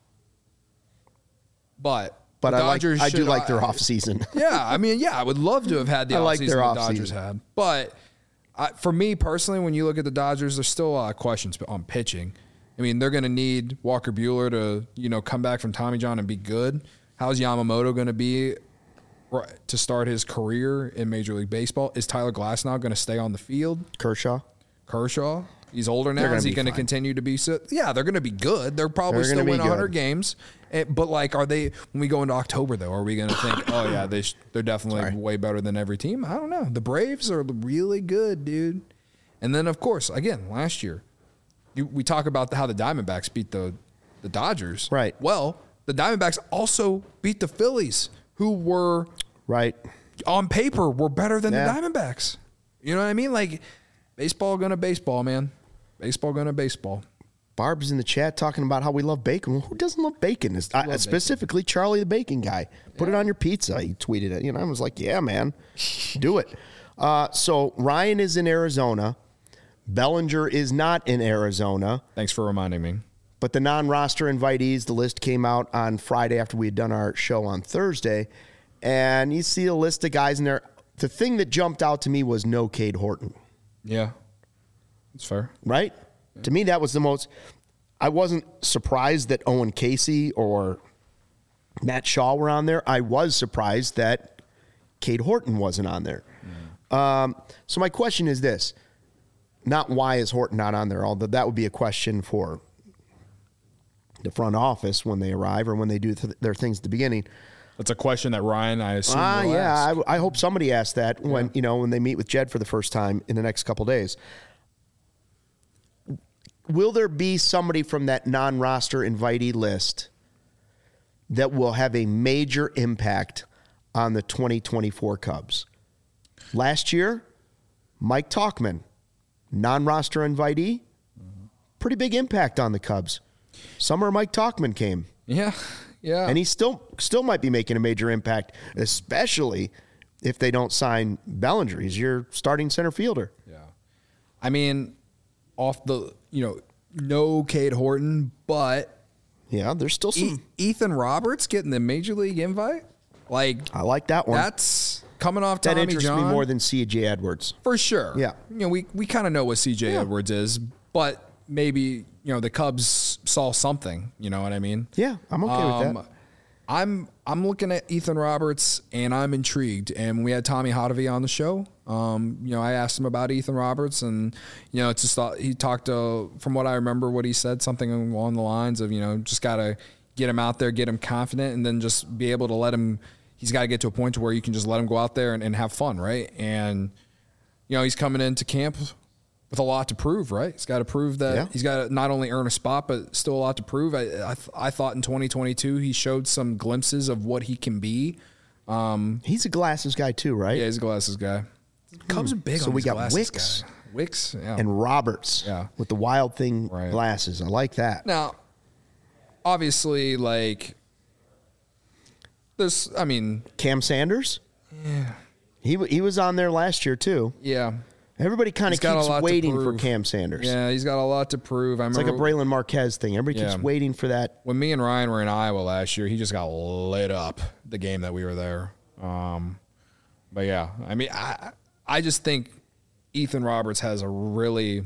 But But the I like Dodgers I do should- like their I- offseason. Yeah, I mean, yeah, I would love to have had the I like offseason their the offseason. Dodgers had. But I, for me personally, when you look at the Dodgers, there's still a lot of questions on pitching. I mean, they're going to need Walker Buehler to, you know, come back from Tommy John and be good. How's Yamamoto going to be right, to start his career in Major League Baseball? Is Tyler Glasnow going to stay on the field? Kershaw. Kershaw, he's older now. They're gonna Is he be going to fine. continue to be so? Yeah, they're going to be good. They're probably They're still gonna be win one hundred good. games. Eh, But like, are they? When we go into October, though, are we going to think, oh yeah, they sh- they're definitely Sorry. way better than every team? I don't know. The Braves are really good, dude. And then of course, again, last year, you, we talk about how the Diamondbacks beat the the Dodgers. Right. Well, the Diamondbacks also beat the Phillies, who were Right. on paper were better than Yeah. the Diamondbacks. You know what I mean? Like, baseball gonna baseball, man. Baseball gonna baseball. Barb's in the chat talking about how we love bacon. Well, who doesn't love bacon? It's, I, bacon. specifically, Charlie the Bacon Guy. Put it on your pizza. He tweeted it. You know, I was like, yeah, man, do it. Uh, so Ryan is in Arizona. Bellinger is not in Arizona. Thanks for reminding me. But the non-roster invitees, the list came out on Friday after we had done our show on Thursday. And you see a list of guys in there. The thing that jumped out to me was no Cade Horton. Yeah. It's fair. Right? Yeah. To me, that was the most. I wasn't surprised that Owen Casey or Matt Shaw were on there. I was surprised that Cade Horton wasn't on there. Mm. Um, so my question is this. Not why is Horton not on there, although that would be a question for the front office when they arrive or when they do th- their things at the beginning. That's a question that Ryan, I assume, Ah, will yeah. ask. I, I hope somebody asks that when Yeah. you know when they meet with Jed for the first time in the next couple days. Will there be somebody from that non-roster invitee list that will have a major impact on the twenty twenty-four Cubs? Last year, Mike Tauchman, non-roster invitee, pretty big impact on the Cubs. Summer Mike Tauchman came. Yeah, yeah. And he still still might be making a major impact, especially if they don't sign Bellinger. He's your starting center fielder. Yeah. I mean, off the, you know, no Cade Horton, but Yeah, there's still some. E- Ethan Roberts getting the major league invite? Like, I like that one. that's coming off that Tommy interests John. me more than C J Edwards. For sure. Yeah. You know, we, we kind of know what C J Yeah. Edwards is, but maybe, you know, the Cubs saw something, you know what I mean? Yeah, I'm okay with that. I'm I'm looking at Ethan Roberts and I'm intrigued. And when we had Tommy Hotovy on the show, um, you know, I asked him about Ethan Roberts, and you know, it's just thought, he talked to, from what I remember, what he said, something along the lines of, you know, just gotta get him out there, get him confident, and then just be able to let him. He's got to get to a point to where you can just let him go out there and, and have fun, right? And you know, he's coming into camp with a lot to prove, right? He's got to prove that Yeah. he's got to not only earn a spot, but still a lot to prove. I, I, I thought in twenty twenty-two he showed some glimpses of what he can be. Um, He's a glasses guy too, right? yeah, he's a glasses guy. Cubs are big So on we these got glasses Wicks. guy. Wicks, yeah. And Roberts Yeah. with the Wild Thing Right. glasses. I like that. Now, obviously, like, this, I mean, Cam Sanders? yeah, He w- he was on there last year too. yeah. Everybody kind He's of got a keeps lot to waiting for prove. Cam Sanders. Yeah, he's got a lot to prove. I It's like a remember Braylon Marquez thing. Everybody Yeah. keeps waiting for that. when me and Ryan were in Iowa last year, he just got lit up the game that we were there. Um, but yeah, I mean, I I just think Ethan Roberts has a really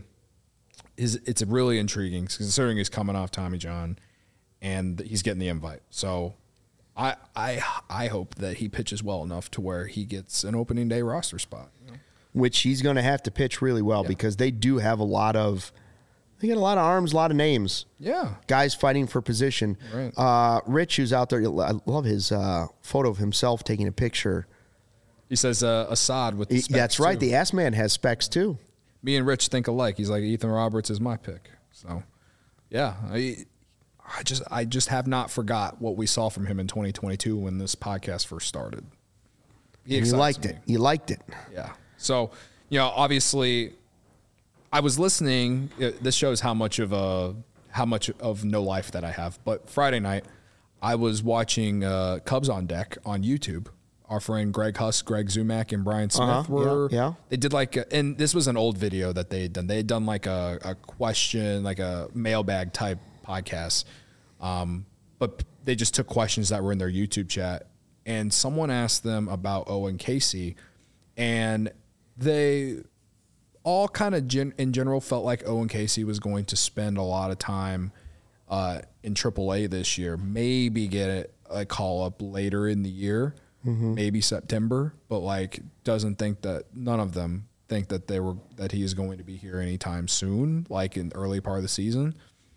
is it's a really intriguing considering he's coming off Tommy John and he's getting the invite. So I I I hope that he pitches well enough to where he gets an opening day roster spot. You know? Which he's going to have to pitch really well Yeah. because they do have a lot of, they got a lot of arms, a lot of names. Yeah. Guys fighting for position. Right. Uh, Rich, who's out there, I love his uh, photo of himself taking a picture. He says uh, Assad with the He- specs that's right. too. The ass man has specs too. Me and Rich think alike. He's like, Ethan Roberts is my pick. So, yeah, I, I just I just have not forgot what we saw from him in twenty twenty-two when this podcast first started. He And you excites liked me. it. You liked it. Yeah. So, you know, obviously, I was listening. uh, This shows how much of a how much of no life that I have. But Friday night, I was watching uh, Cubs on Deck on YouTube. Our friend Greg Huss, Greg Zumak, and Brian Smith Uh-huh. were. Yeah, yeah. They did like, a, and this was an old video that they had done. They had done like a, a question, like a mailbag type podcast. Um, but they just took questions that were in their YouTube chat, and someone asked them about Owen Casey, and they all kind of gen- in general felt like Owen Casey was going to spend a lot of time uh, in triple A this year, maybe get a call up later in the year, mm-hmm. maybe September, but like doesn't think that none of them think that they were that he is going to be here anytime soon, like in the early part of the season.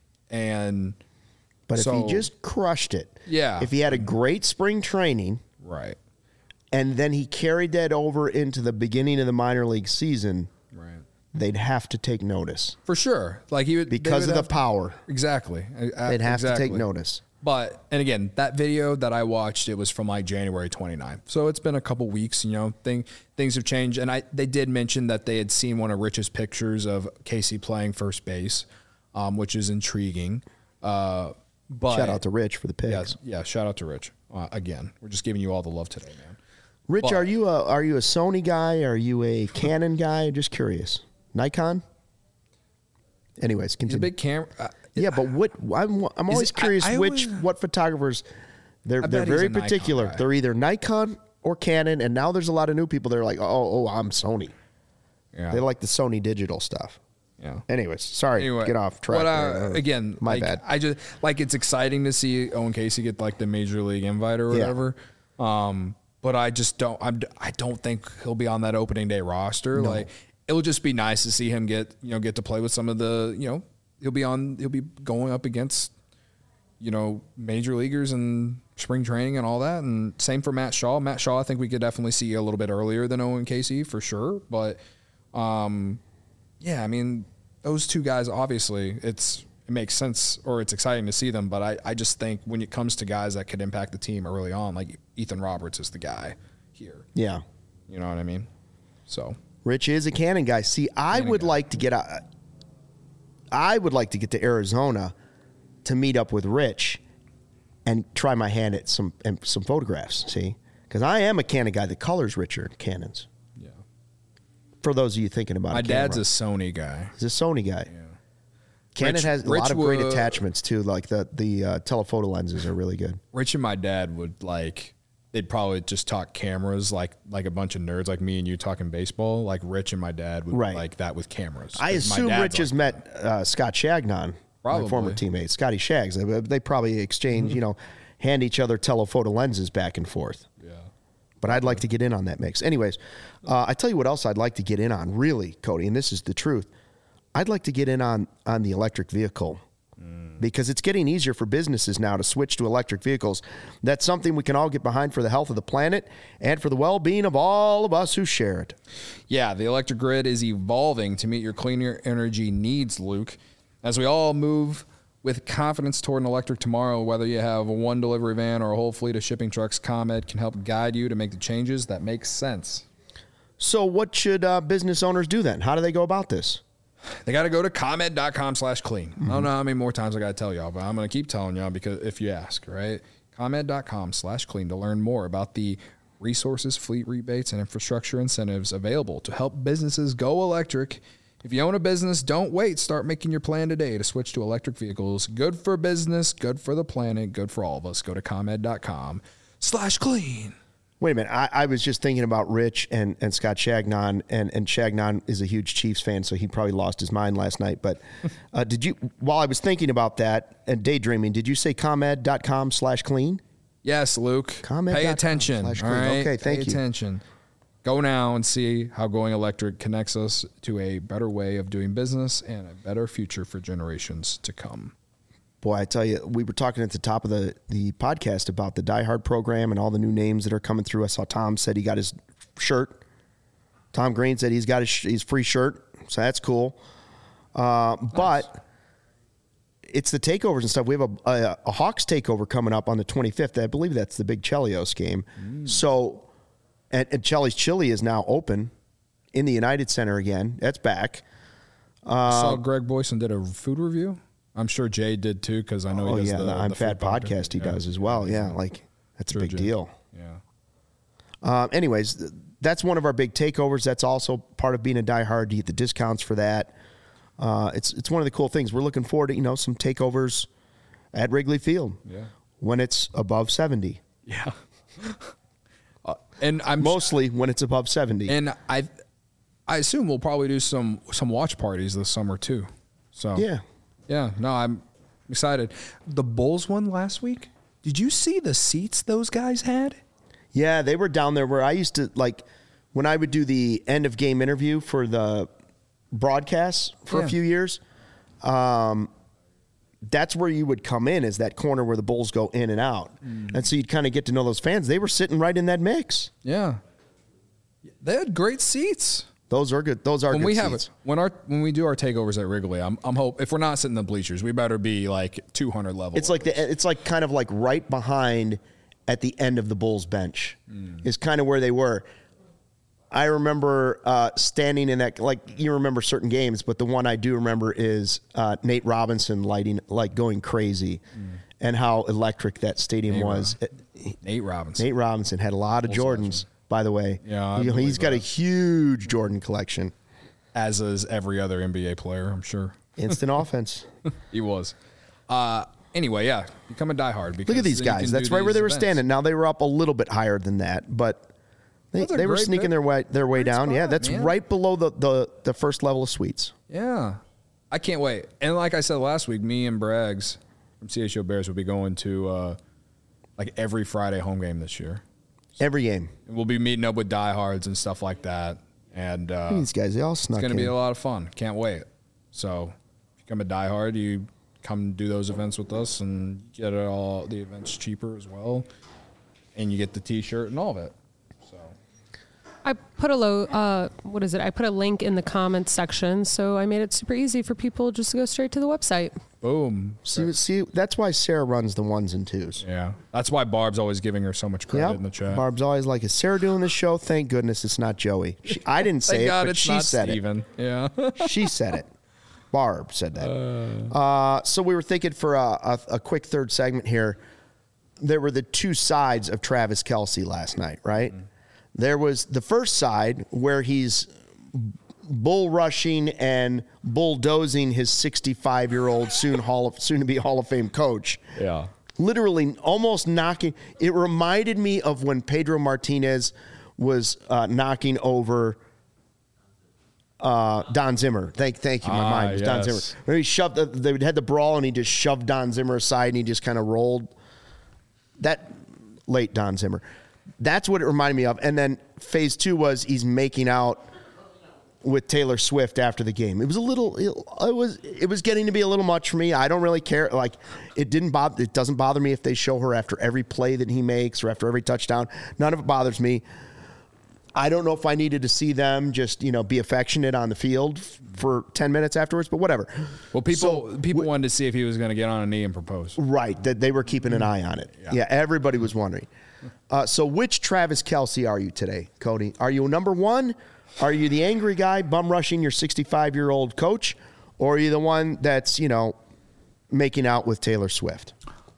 And But so, if he just crushed it, Yeah. if he had a great spring training, right, and then he carried that over into the beginning of the minor league season, right, they'd have to take notice for sure, like he would they because would of the have to- power. Exactly, I- I- They'd have exactly. to take notice. But, and again, that video that I watched, it was from like January twenty-ninth. So it's been a couple weeks, you know, thing, things have changed. And I, they did mention that they had seen one of Rich's pictures of Casey playing first base, um, which is intriguing. Uh, but Shout out to Rich for the picks. yes, yeah, shout out to Rich. Uh, again, we're just giving you all the love today, man. Rich, But- are you a are you a Sony guy? Are you a Canon guy? Just curious. Nikon. Anyways, He's a continue. big camera. Uh, Yeah, but what I'm I'm always it- I- curious I which always- what photographers they're I they're bet he's very a Nikon particular. guy. They're either Nikon or Canon, and now there's a lot of new people. They're like, oh oh, I'm Sony. yeah. They like the Sony digital stuff. Yeah. Anyways, sorry, Anyway, get off track. But, uh, there. again, my like, bad. I just like it's exciting to see Owen Casey get like the major league invite or Yeah. whatever. Um, but I just don't. I'm. I don't think he'll be on that opening day roster. No. Like it'll just be nice to see him get you know get to play with some of the you know he'll be on he'll be going up against you know major leaguers and spring training and all that. And same for Matt Shaw. Matt Shaw, I think we could definitely see a little bit earlier than Owen Casey for sure. But um, yeah, I mean those two guys obviously it's. It makes sense or it's exciting to see them, but I, I just think when it comes to guys that could impact the team early on, like Ethan Roberts is the guy here. Yeah. You know what I mean? So Rich is a Cannon guy. See, I Cannon would guy. like to get out. I would like to get to Arizona to meet up with Rich and try my hand at some and some photographs. See, because I am a Canon guy. The colors richer Cannons. yeah, For those of you thinking about my it, dad's a camera. Sony guy. He's a Sony guy. Yeah. Canon Rich- has a Rich lot of great would- attachments too. Like the the uh, telephoto lenses are really good. Rich and my dad would like they'd probably just talk cameras like like a bunch of nerds like me and you talking baseball. Like Rich and my dad would Right. be like that with cameras. I 'Cause my assume dad's Rich like has met uh, Scott Shagnon, my Probably. former teammate, Scotty Shags. They, they probably exchange, you know, hand each other telephoto lenses back and forth. Yeah. But I'd like to get in on that mix. Anyways, uh, I tell you what else I'd like to get in on, really, Cody, and this is the truth. I'd like to get in on on the electric vehicle because it's getting easier for businesses now to switch to electric vehicles. That's something we can all get behind for the health of the planet and for the well-being of all of us who share it. Yeah, the electric grid is evolving to meet your cleaner energy needs, Luke. As we all move with confidence toward an electric tomorrow, whether you have one delivery van or a whole fleet of shipping trucks, ComEd can help guide you to make the changes that make sense. So what should uh, business owners do then? How do they go about this? They got to go to ComEd.com slash clean. I don't know how many more times I got to tell y'all, but I'm going to keep telling y'all because if you ask, right? ComEd.com slash clean to learn more about the resources, fleet rebates, and infrastructure incentives available to help businesses go electric. If you own a business, don't wait. Start making your plan today to switch to electric vehicles. Good for business, good for the planet, good for all of us. Go to ComEd.com slash clean. Wait a minute. I, I was just thinking about Rich and, and Scott Shagnon, and, and Shagnon is a huge Chiefs fan, so he probably lost his mind last night. But uh, did you, while I was thinking about that and daydreaming, did you say ComEd.com slash clean? Yes, Luke. ComEd dot com Pay attention. slash All clean. right. Okay, thank Pay you. attention. Go now and see how going electric connects us to a better way of doing business and a better future for generations to come. Boy, I tell you, we were talking at the top of the, the podcast about the Die Hard program and all the new names that are coming through. I saw Tom said he got his shirt. Tom Green said he's got his, his free shirt, so that's cool. Uh, nice. But it's the takeovers and stuff. We have a, a, a Hawks takeover coming up on the twenty-fifth. I believe that's the big Chelios game. Mm. So, and, and Chelly's Chili is now open in the United Center again. That's back. Uh, I saw Greg Boyson did a food review. I'm sure Jay did too, because I know oh, he does yeah, the, the I'm the Fat podcast, podcast he yeah. does as well. Yeah, like that's sure, a big Jay. deal. Yeah. Uh, anyways, that's one of our big takeovers. That's also part of being a diehard. You get the discounts for that. Uh, it's it's one of the cool things. We're looking forward to you know some takeovers at Wrigley Field. Yeah. When it's above seventy. Yeah. uh, and I'm mostly when it's above seventy. And I, I assume we'll probably do some some watch parties this summer too. So yeah. Yeah, no, I'm excited. The Bulls won last week. Did you see the seats those guys had? Yeah, they were down there where I used to, like, when I would do the end of game interview for the broadcasts for yeah. a few years, um, that's where you would come in, is that corner where the Bulls go in and out. Mm. And so you'd kind of get to know those fans. They were sitting right in that mix. Yeah. They had great seats. Those are good. Those are when good we seats. have it, when our when we do our takeovers at Wrigley, I'm I'm hope if we're not sitting in the bleachers, we better be like two hundred level. It's like the it's like kind of like right behind at the end of the Bulls bench mm. is kind of where they were. I remember uh, standing in that, like you remember certain games, but the one I do remember is uh, Nate Robinson lighting, like going crazy, mm. and how electric that stadium Nate was. Rob- Nate Robinson. Nate Robinson had a lot of Bulls Jordans. legend. By the way, yeah, he, he's got that. a huge Jordan collection. As is every other N B A player, I'm sure. Instant offense. He was. Uh, anyway, yeah, become a diehard. Because look at these guys. That's right where they were events. standing. Now they were up a little bit higher than that, but they, they were sneaking pick. their way their way great down. Spot, yeah, that's man. right below the, the, the first level of suites. Yeah, I can't wait. And like I said last week, me and Braggs from C H O Bears will be going to uh, like every Friday home game this year. Every game. And we'll be meeting up with diehards and stuff like that. And uh, these guys, they all snuck it's going to in. be a lot of fun. Can't wait. So if you become a diehard, you come do those events with us and get it all the events cheaper as well. And you get the T-shirt and all of it. So I put a low, uh, what is it? I put a link in the comments section, so I made it super easy for people just to go straight to the website. Boom. See, see, that's why Sarah runs the ones and twos. Yeah. That's why Barb's always giving her so much credit Yep. in the chat. Barb's always like, is Sarah doing this show? Thank goodness it's not Joey. She, I didn't say Thank it, God but it's she not said Steven. Yeah. it. She said it. Barb said that. Uh, uh, so we were thinking for a, a, a quick third segment here. There were the two sides of Travis Kelce last night, right? Mm-hmm. There was the first side where he's bull rushing and bulldozing his sixty-five-year-old soon Hall of, soon to be Hall of Fame coach. Yeah. Literally almost knocking. It reminded me of when Pedro Martinez was uh, knocking over uh, Don Zimmer. Thank, thank you. My ah, mind was yes. Don Zimmer. Where he shoved. The, they had the brawl and he just shoved Don Zimmer aside and he just kind of rolled. That late Don Zimmer. That's what it reminded me of. And then phase two was he's making out with Taylor Swift after the game. It was a little, it was, it was getting to be a little much for me. I don't really care. Like it didn't bother, it doesn't bother me if they show her after every play that he makes or after every touchdown. None of it bothers me. I don't know if I needed to see them just, you know, be affectionate on the field for ten minutes afterwards, but whatever. Well, people So, people w- wanted to see if he was going to get on a knee and propose. Right, that they were keeping an eye on it. Yeah, yeah everybody was wondering. Uh, so which Travis Kelce are you today, Cody? Are you number one? Are you the angry guy bum rushing your sixty-five-year-old coach? Or are you the one that's, you know, making out with Taylor Swift?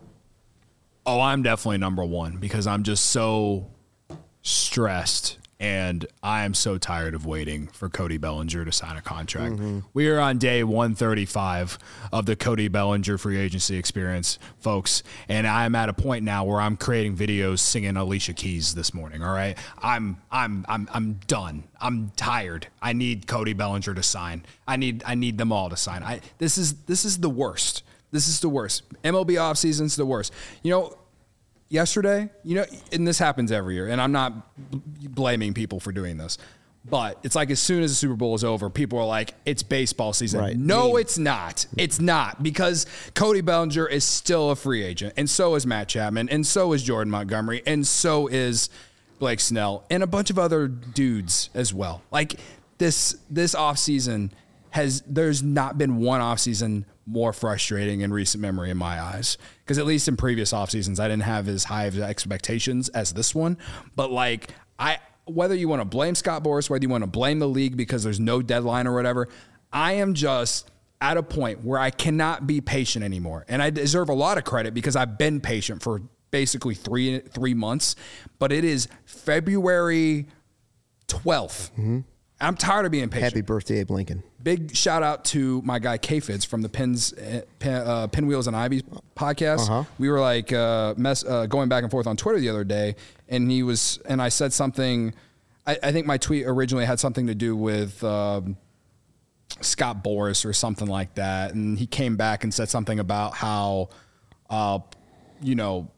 Oh, I'm definitely number one because I'm just so stressed. And I am so tired of waiting for Cody Bellinger to sign a contract. Mm-hmm. We are on day one thirty-five of the Cody Bellinger free agency experience, folks. And I'm at a point now where I'm creating videos singing Alicia Keys this morning. All right, I'm I'm I'm I'm done. I'm tired. I need Cody Bellinger to sign. I need I need them all to sign. I this is this is the worst. This is the worst. M L B offseason's the worst. You know. Yesterday, you know, and this happens every year, and I'm not blaming people for doing this, but it's like as soon as the Super Bowl is over, people are like, it's baseball season. Right. No, it's not. It's not because Cody Bellinger is still a free agent, and so is Matt Chapman, and so is Jordan Montgomery, and so is Blake Snell, and a bunch of other dudes as well. Like this, this offseason has, there's not been one offseason more frustrating in recent memory in my eyes. Because at least in previous off seasons, I didn't have as high of expectations as this one. But like, I whether you want to blame Scott Boras, whether you want to blame the league because there's no deadline or whatever, I am just at a point where I cannot be patient anymore. And I deserve a lot of credit because I've been patient for basically three three months. But it is February twelfth. Mm-hmm. I'm tired of being patient. Happy birthday, Abe Lincoln. Big shout out to my guy K-Fids from the Pins, Pin, uh, Pinwheels and Ivy podcast. Uh-huh. We were like uh, mess, uh, going back and forth on Twitter the other day, and he was, and I said something. I, I think my tweet originally had something to do with um, Scott Boras or something like that, and he came back and said something about how, uh, you know,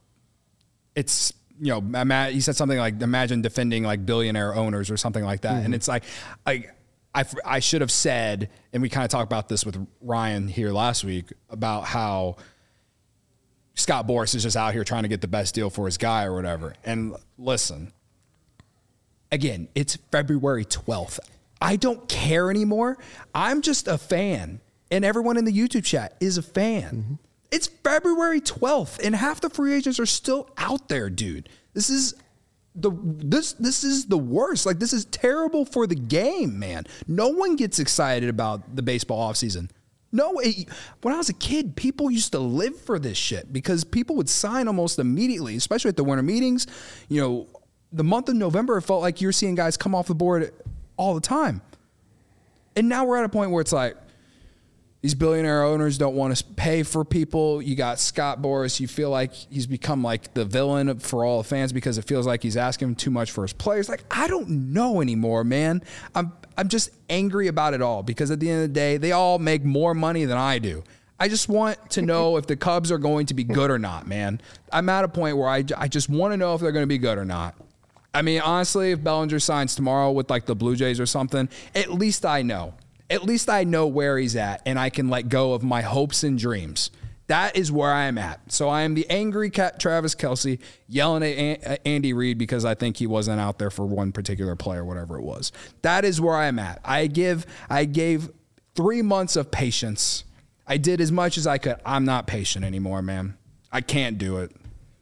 it's. You know, he said something like, imagine defending like billionaire owners or something like that. Mm-hmm. And it's like, I, I, I should have said, and we kind of talked about this with Ryan here last week about how Scott Boras is just out here trying to get the best deal for his guy or whatever. And listen, again, it's February twelfth. I don't care anymore. I'm just a fan. And everyone in the YouTube chat is a fan. Mm-hmm. It's February twelfth, and half the free agents are still out there, dude. This is the this this is the worst. Like, this is terrible for the game, man. No one gets excited about the baseball offseason. No, it, when I was a kid, people used to live for this shit because people would sign almost immediately, especially at the winter meetings. You know, the month of November, it felt like you're seeing guys come off the board all the time. And now we're at a point where it's like, these billionaire owners don't want to pay for people. You got Scott Boras. You feel like he's become like the villain for all the fans because it feels like he's asking too much for his players. Like, I don't know anymore, man. I'm I'm just angry about it all because at the end of the day, they all make more money than I do. I just want to know if the Cubs are going to be good or not, man. I'm at a point where I, I just want to know if they're going to be good or not. I mean, honestly, if Bellinger signs tomorrow with like the Blue Jays or something, at least I know. At least I know where he's at and I can let go of my hopes and dreams. That is where I am at. So I am the angry cat Travis Kelce yelling at Andy Reid because I think he wasn't out there for one particular player, whatever it was. That is where I am at. I give, I gave three months of patience. I did as much as I could. I'm not patient anymore, man. I can't do it.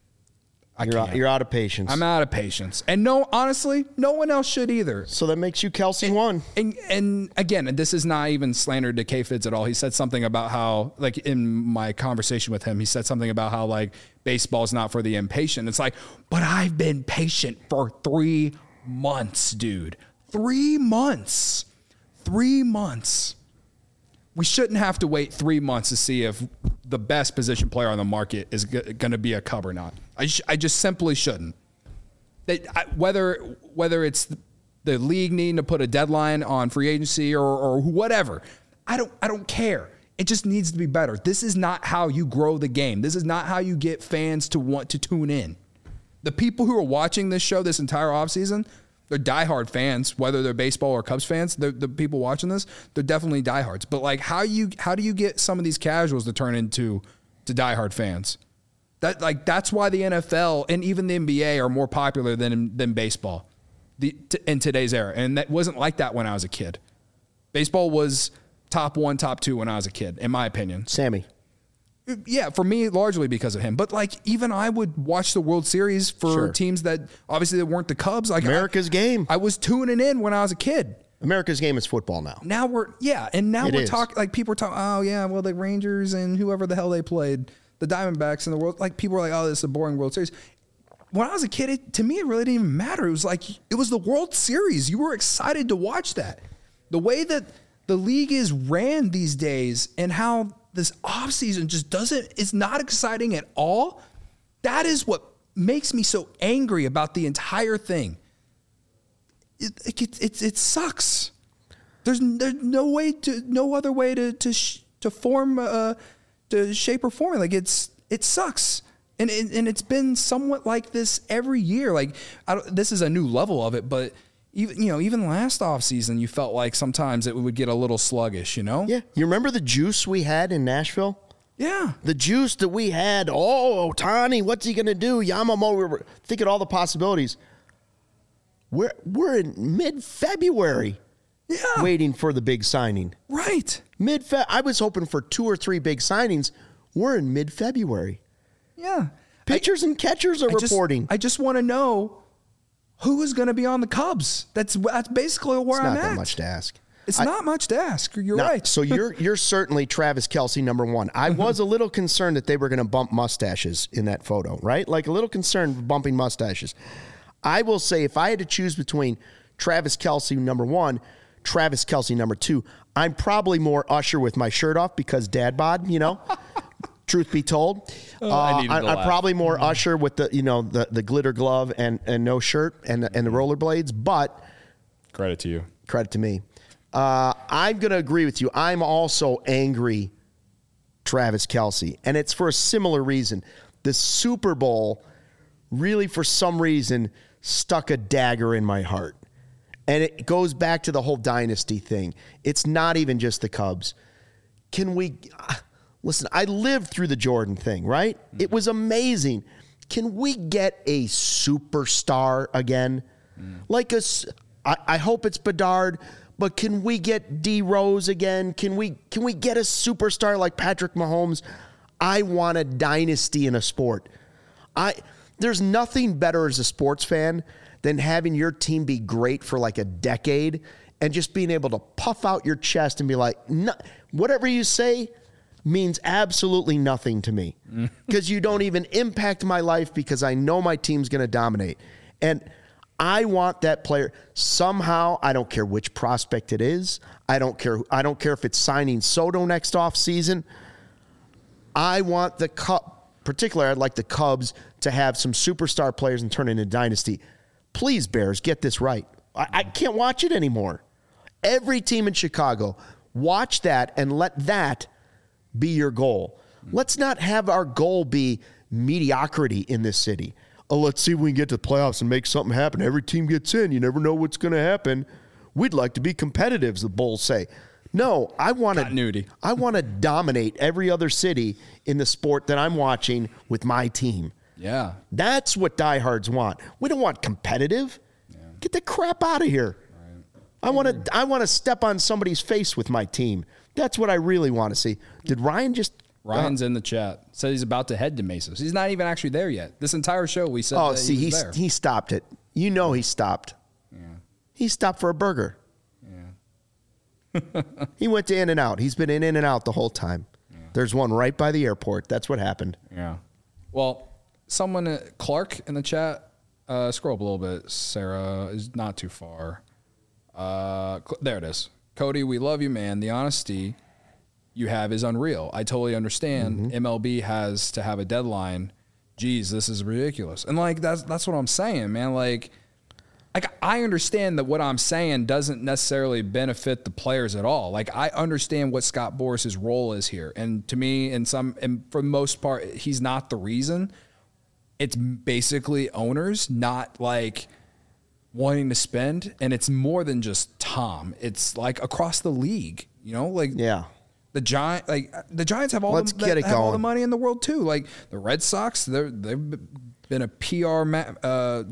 I you're, can't. Out, you're out of patience. I'm out of patience. And no, honestly, no one else should either. So that makes you Kelce and, one. And, and again, this is not even slander to K-Fids at all. He said something about how, like in my conversation with him, he said something about how like baseball's not for the impatient. It's like, but I've been patient for three months, dude. Three months. Three months. We shouldn't have to wait three months to see if the best position player on the market is g- going to be a Cub or not. I, sh- I just simply shouldn't. They, I, whether whether it's the league needing to put a deadline on free agency or, or whatever, I don't I don't care. It just needs to be better. This is not how you grow the game. This is not how you get fans to want to tune in. The people who are watching this show this entire offseason, they're diehard fans, whether they're baseball or Cubs fans. The people watching this, they're definitely diehards. But like, how you how do you get some of these casuals to turn into to diehard fans? That like that's why the N F L and even the N B A are more popular than than baseball, the t- in today's era. And that wasn't like that when I was a kid. Baseball was top one, top two when I was a kid, in my opinion. Sammy. Yeah, for me, largely because of him. But like, even I would watch the World Series for Sure. teams that obviously that weren't the Cubs. Like America's I, game. I was tuning in when I was a kid. America's game is football now. Now we're yeah, and now It we're is. talking like people are talking. Oh yeah, well the Rangers and whoever the hell they played, the Diamondbacks in the world. Like people were like, oh, this is a boring World Series. When I was a kid, it, to me, it really didn't even matter. It was like it was the World Series. You were excited to watch that. The way that the league is ran these days and how this offseason just doesn't, it's not exciting at all. That is what makes me so angry about the entire thing. It it it, it sucks. There's there's no way to, no other way to to sh- to form uh to shape or form. Like it's it sucks. And it, and it's been somewhat like this every year. Like I don't, this is a new level of it, but even, you know, even last offseason, you felt like sometimes it would get a little sluggish, you know? Yeah. You remember the juice we had in Nashville? Yeah. The juice that we had. Oh, Ohtani, what's he going to do? Yamamoto. We were thinking all the possibilities. We're, we're in mid-February Yeah. waiting for the big signing. Right. Mid-Fe- I was hoping for two or three big signings. We're in mid-February. Yeah. Pitchers and catchers are I just, reporting. I just want to know who is going to be on the Cubs. That's that's basically where it's I'm not at. that much to ask. It's I- not much to ask. You're No, right. So you're you're certainly Travis Kelce number one. I was a little concerned that they were going to bump mustaches in that photo, right? Like a little concerned bumping mustaches. I will say if I had to choose between Travis Kelce number one, Travis Kelce number two, I'm probably more Usher with my shirt off because dad bod, you know. Truth be told, Oh, I uh, needed I, to I'm laugh. probably more Usher with the you know the, the glitter glove and, and no shirt and and the rollerblades. But Credit to you. credit to me. Uh, I'm going to agree with you. I'm also angry, Travis Kelce, and it's for a similar reason. The Super Bowl really, for some reason, stuck a dagger in my heart. And it goes back to the whole dynasty thing. It's not even just the Cubs. Can we... Listen, I lived through the Jordan thing, right? Mm. It was amazing. Can we get a superstar again? Mm. Like a... I, I hope it's Bedard, but can we get D Rose again? Can we can we get a superstar like Patrick Mahomes? I want a dynasty in a sport. I there's nothing better as a sports fan than having your team be great for like a decade and just being able to puff out your chest and be like, no, whatever you say means absolutely nothing to me because you don't even impact my life because I know my team's going to dominate. And I want that player somehow. I don't care which prospect it is. I don't care. I don't care if it's signing Soto next offseason. I want the Cup, particularly I'd like the Cubs to have some superstar players and turn it into dynasty. Please, Bears, get this right. I, I can't watch it anymore. Every team in Chicago, watch that and let that be your goal. Let's not have our goal be mediocrity in this city. Oh, let's see if we can get to the playoffs and make something happen. Every team gets in. You never know what's going to happen. We'd like to be competitive, the Bulls say. No, I want to I want to dominate every other city in the sport that I'm watching with my team. Yeah. That's what diehards want. We don't want competitive. Yeah. Get the crap out of here. Right. I want to I want to step on somebody's face with my team. That's what I really want to see. Did Ryan just Ryan's uh, in the chat. Said he's about to head to Mesos. He's not even actually there yet. This entire show we said Oh, that see, he he, he stopped it. You know he stopped. Yeah. He stopped for a burger. Yeah. He went to In-N-Out. He's been in In-N-Out the whole time. Yeah. There's one right by the airport. That's what happened. Yeah. Well, someone, uh, Clark in the chat, uh, scroll up a little bit. Sarah is not too far. Uh, there it is. Cody, we love you, man. The honesty you have is unreal. I totally understand. Mm-hmm. M L B has to have a deadline. Geez, this is ridiculous. And like that's that's what I'm saying, man. Like, like I understand that what I'm saying doesn't necessarily benefit the players at all. Like I understand what Scott Boras's role is here, and to me, in some, and for the most part, he's not the reason. It's basically owners not like wanting to spend, and it's more than just Tom. It's like across the league, you know, like yeah. The Giant, like the Giants, have all Let's the get it have going. all the money in the world too. Like the Red Sox, they're they've been a P R ma- uh,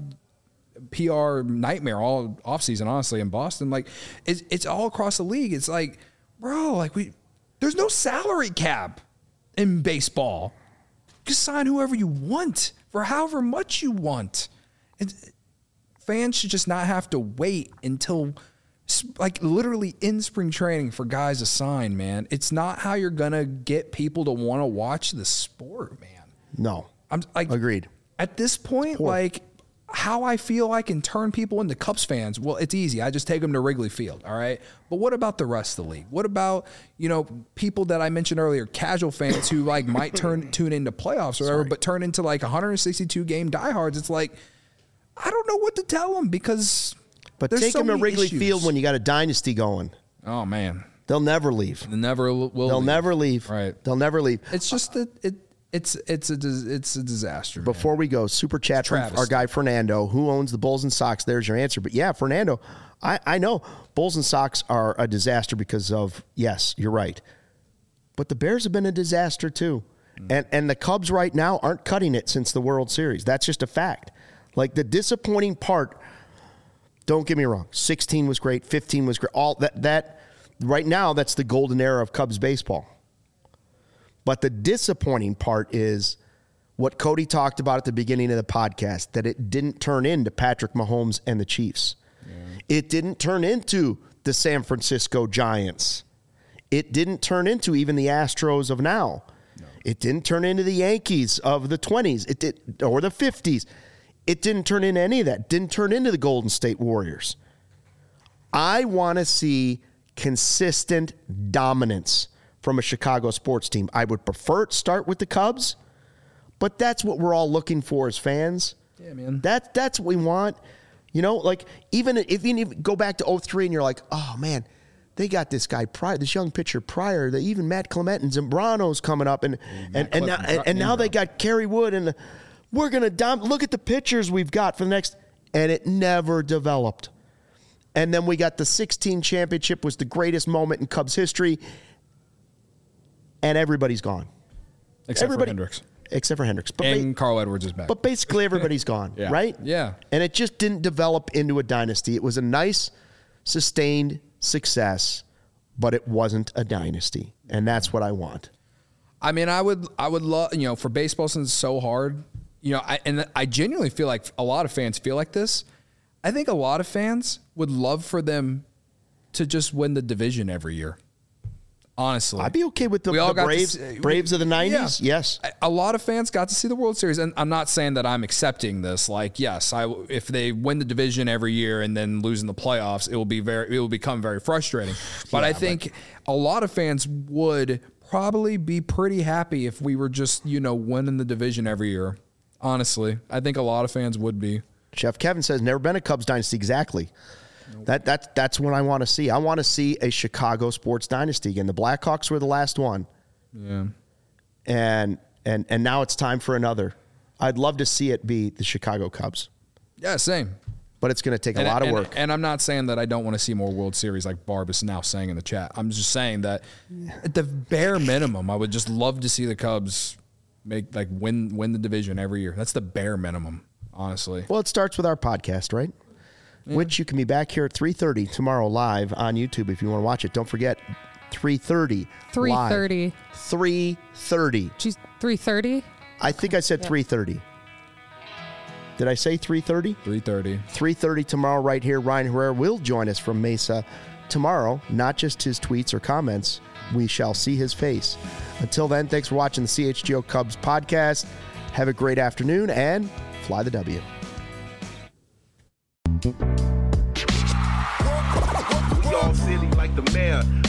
P R nightmare all offseason, honestly, in Boston. Like it's it's all across the league. It's like, bro, like we there's no salary cap in baseball. Just sign whoever you want for however much you want. And fans should just not have to wait until. Like literally in spring training for guys to sign, man. It's not how you're gonna get people to want to watch the sport, man. No, I'm like agreed. At this point, like how I feel I can turn people into Cubs fans. Well, it's easy. I just take them to Wrigley Field, all right. But what about the rest of the league? What about you know people that I mentioned earlier, casual fans who like might turn tune into playoffs or whatever, but turn into like one hundred sixty-two game diehards? It's like I don't know what to tell them because. But There's take so them to Wrigley issues. Field when you got a dynasty going. Oh man, they'll never leave. They never will. They'll leave. never leave. Right. They'll never leave. It's just that it. It's it's a it's a disaster. Before man. we go, super chat from our guy Fernando, who owns the Bulls and Sox. There's your answer. But yeah, Fernando, I I know Bulls and Sox are a disaster because of yes, you're right. But the Bears have been a disaster too, mm. and and the Cubs right now aren't cutting it since the World Series. That's just a fact. Like the disappointing part. Don't get me wrong. sixteen was great. fifteen was great. All that that right now, that's the golden era of Cubs baseball. But the disappointing part is what Cody talked about at the beginning of the podcast, that it didn't turn into Patrick Mahomes and the Chiefs. Yeah. It didn't turn into the San Francisco Giants. It didn't turn into even the Astros of now. No. It didn't turn into the Yankees of the twenties. It did, or the fifties. It didn't turn into any of that. It didn't turn into the Golden State Warriors. I want to see consistent dominance from a Chicago sports team. I would prefer it start with the Cubs, but that's what we're all looking for as fans. Yeah, man. That, that's what we want. You know, like even if you go back to oh three and you're like, oh, man, they got this guy prior, this young pitcher prior, that even Matt Clement and Zambrano's coming up, and and, and, and now, and, and now they got Kerry Wood and the, we're going to dom- look at the pitchers we've got for the next, and it never developed. And then we got the sixteen championship was the greatest moment in Cubs history, and everybody's gone. Except Everybody, for Hendricks. Except for Hendricks. But and ba- Carl Edwards is back. But basically everybody's gone, yeah. right? Yeah. And it just didn't develop into a dynasty. It was a nice, sustained success, but it wasn't a dynasty, and that's what I want. I mean, I would I would love, you know, for baseball, since it's so hard, you know, I, and I genuinely feel like a lot of fans feel like this. I think a lot of fans would love for them to just win the division every year. Honestly, I'd be okay with the, We all the got to Braves, see- Braves of the nineties. Yeah. Yes. A lot of fans got to see the World Series, and I'm not saying that I'm accepting this. Like, yes, I if they win the division every year and then lose in the playoffs, it will be very it will become very frustrating. But Yeah, I think a lot of fans would probably be pretty happy if we were just, you know, winning the division every year. Honestly, I think a lot of fans would be. Chef Kevin says, never been a Cubs dynasty. Exactly. Nope. That, that, that's what I want to see. I want to see a Chicago sports dynasty again. The Blackhawks were the last one. Yeah. And, and, and now it's time for another. I'd love to see it be the Chicago Cubs. Yeah, same. But it's going to take a and, lot and, of work. And I'm not saying that I don't want to see more World Series like Barb is now saying in the chat. I'm just saying that at the bare minimum, I would just love to see the Cubs make like win win the division every year. That's the bare minimum, honestly. Well, it starts with our podcast, right? Yeah. Which you can be back here at three thirty tomorrow live on YouTube if you want to watch it. Don't forget, three thirty three thirty three thirty She's three thirty I think I said yeah. three thirty Did I say three thirty three thirty three thirty tomorrow right here. Ryan Herrera will join us from Mesa tomorrow. Not just his tweets or comments. We shall see his face. Until then, thanks for watching the C H G O Cubs podcast. Have a great afternoon and fly the W. We all silly like the mayor.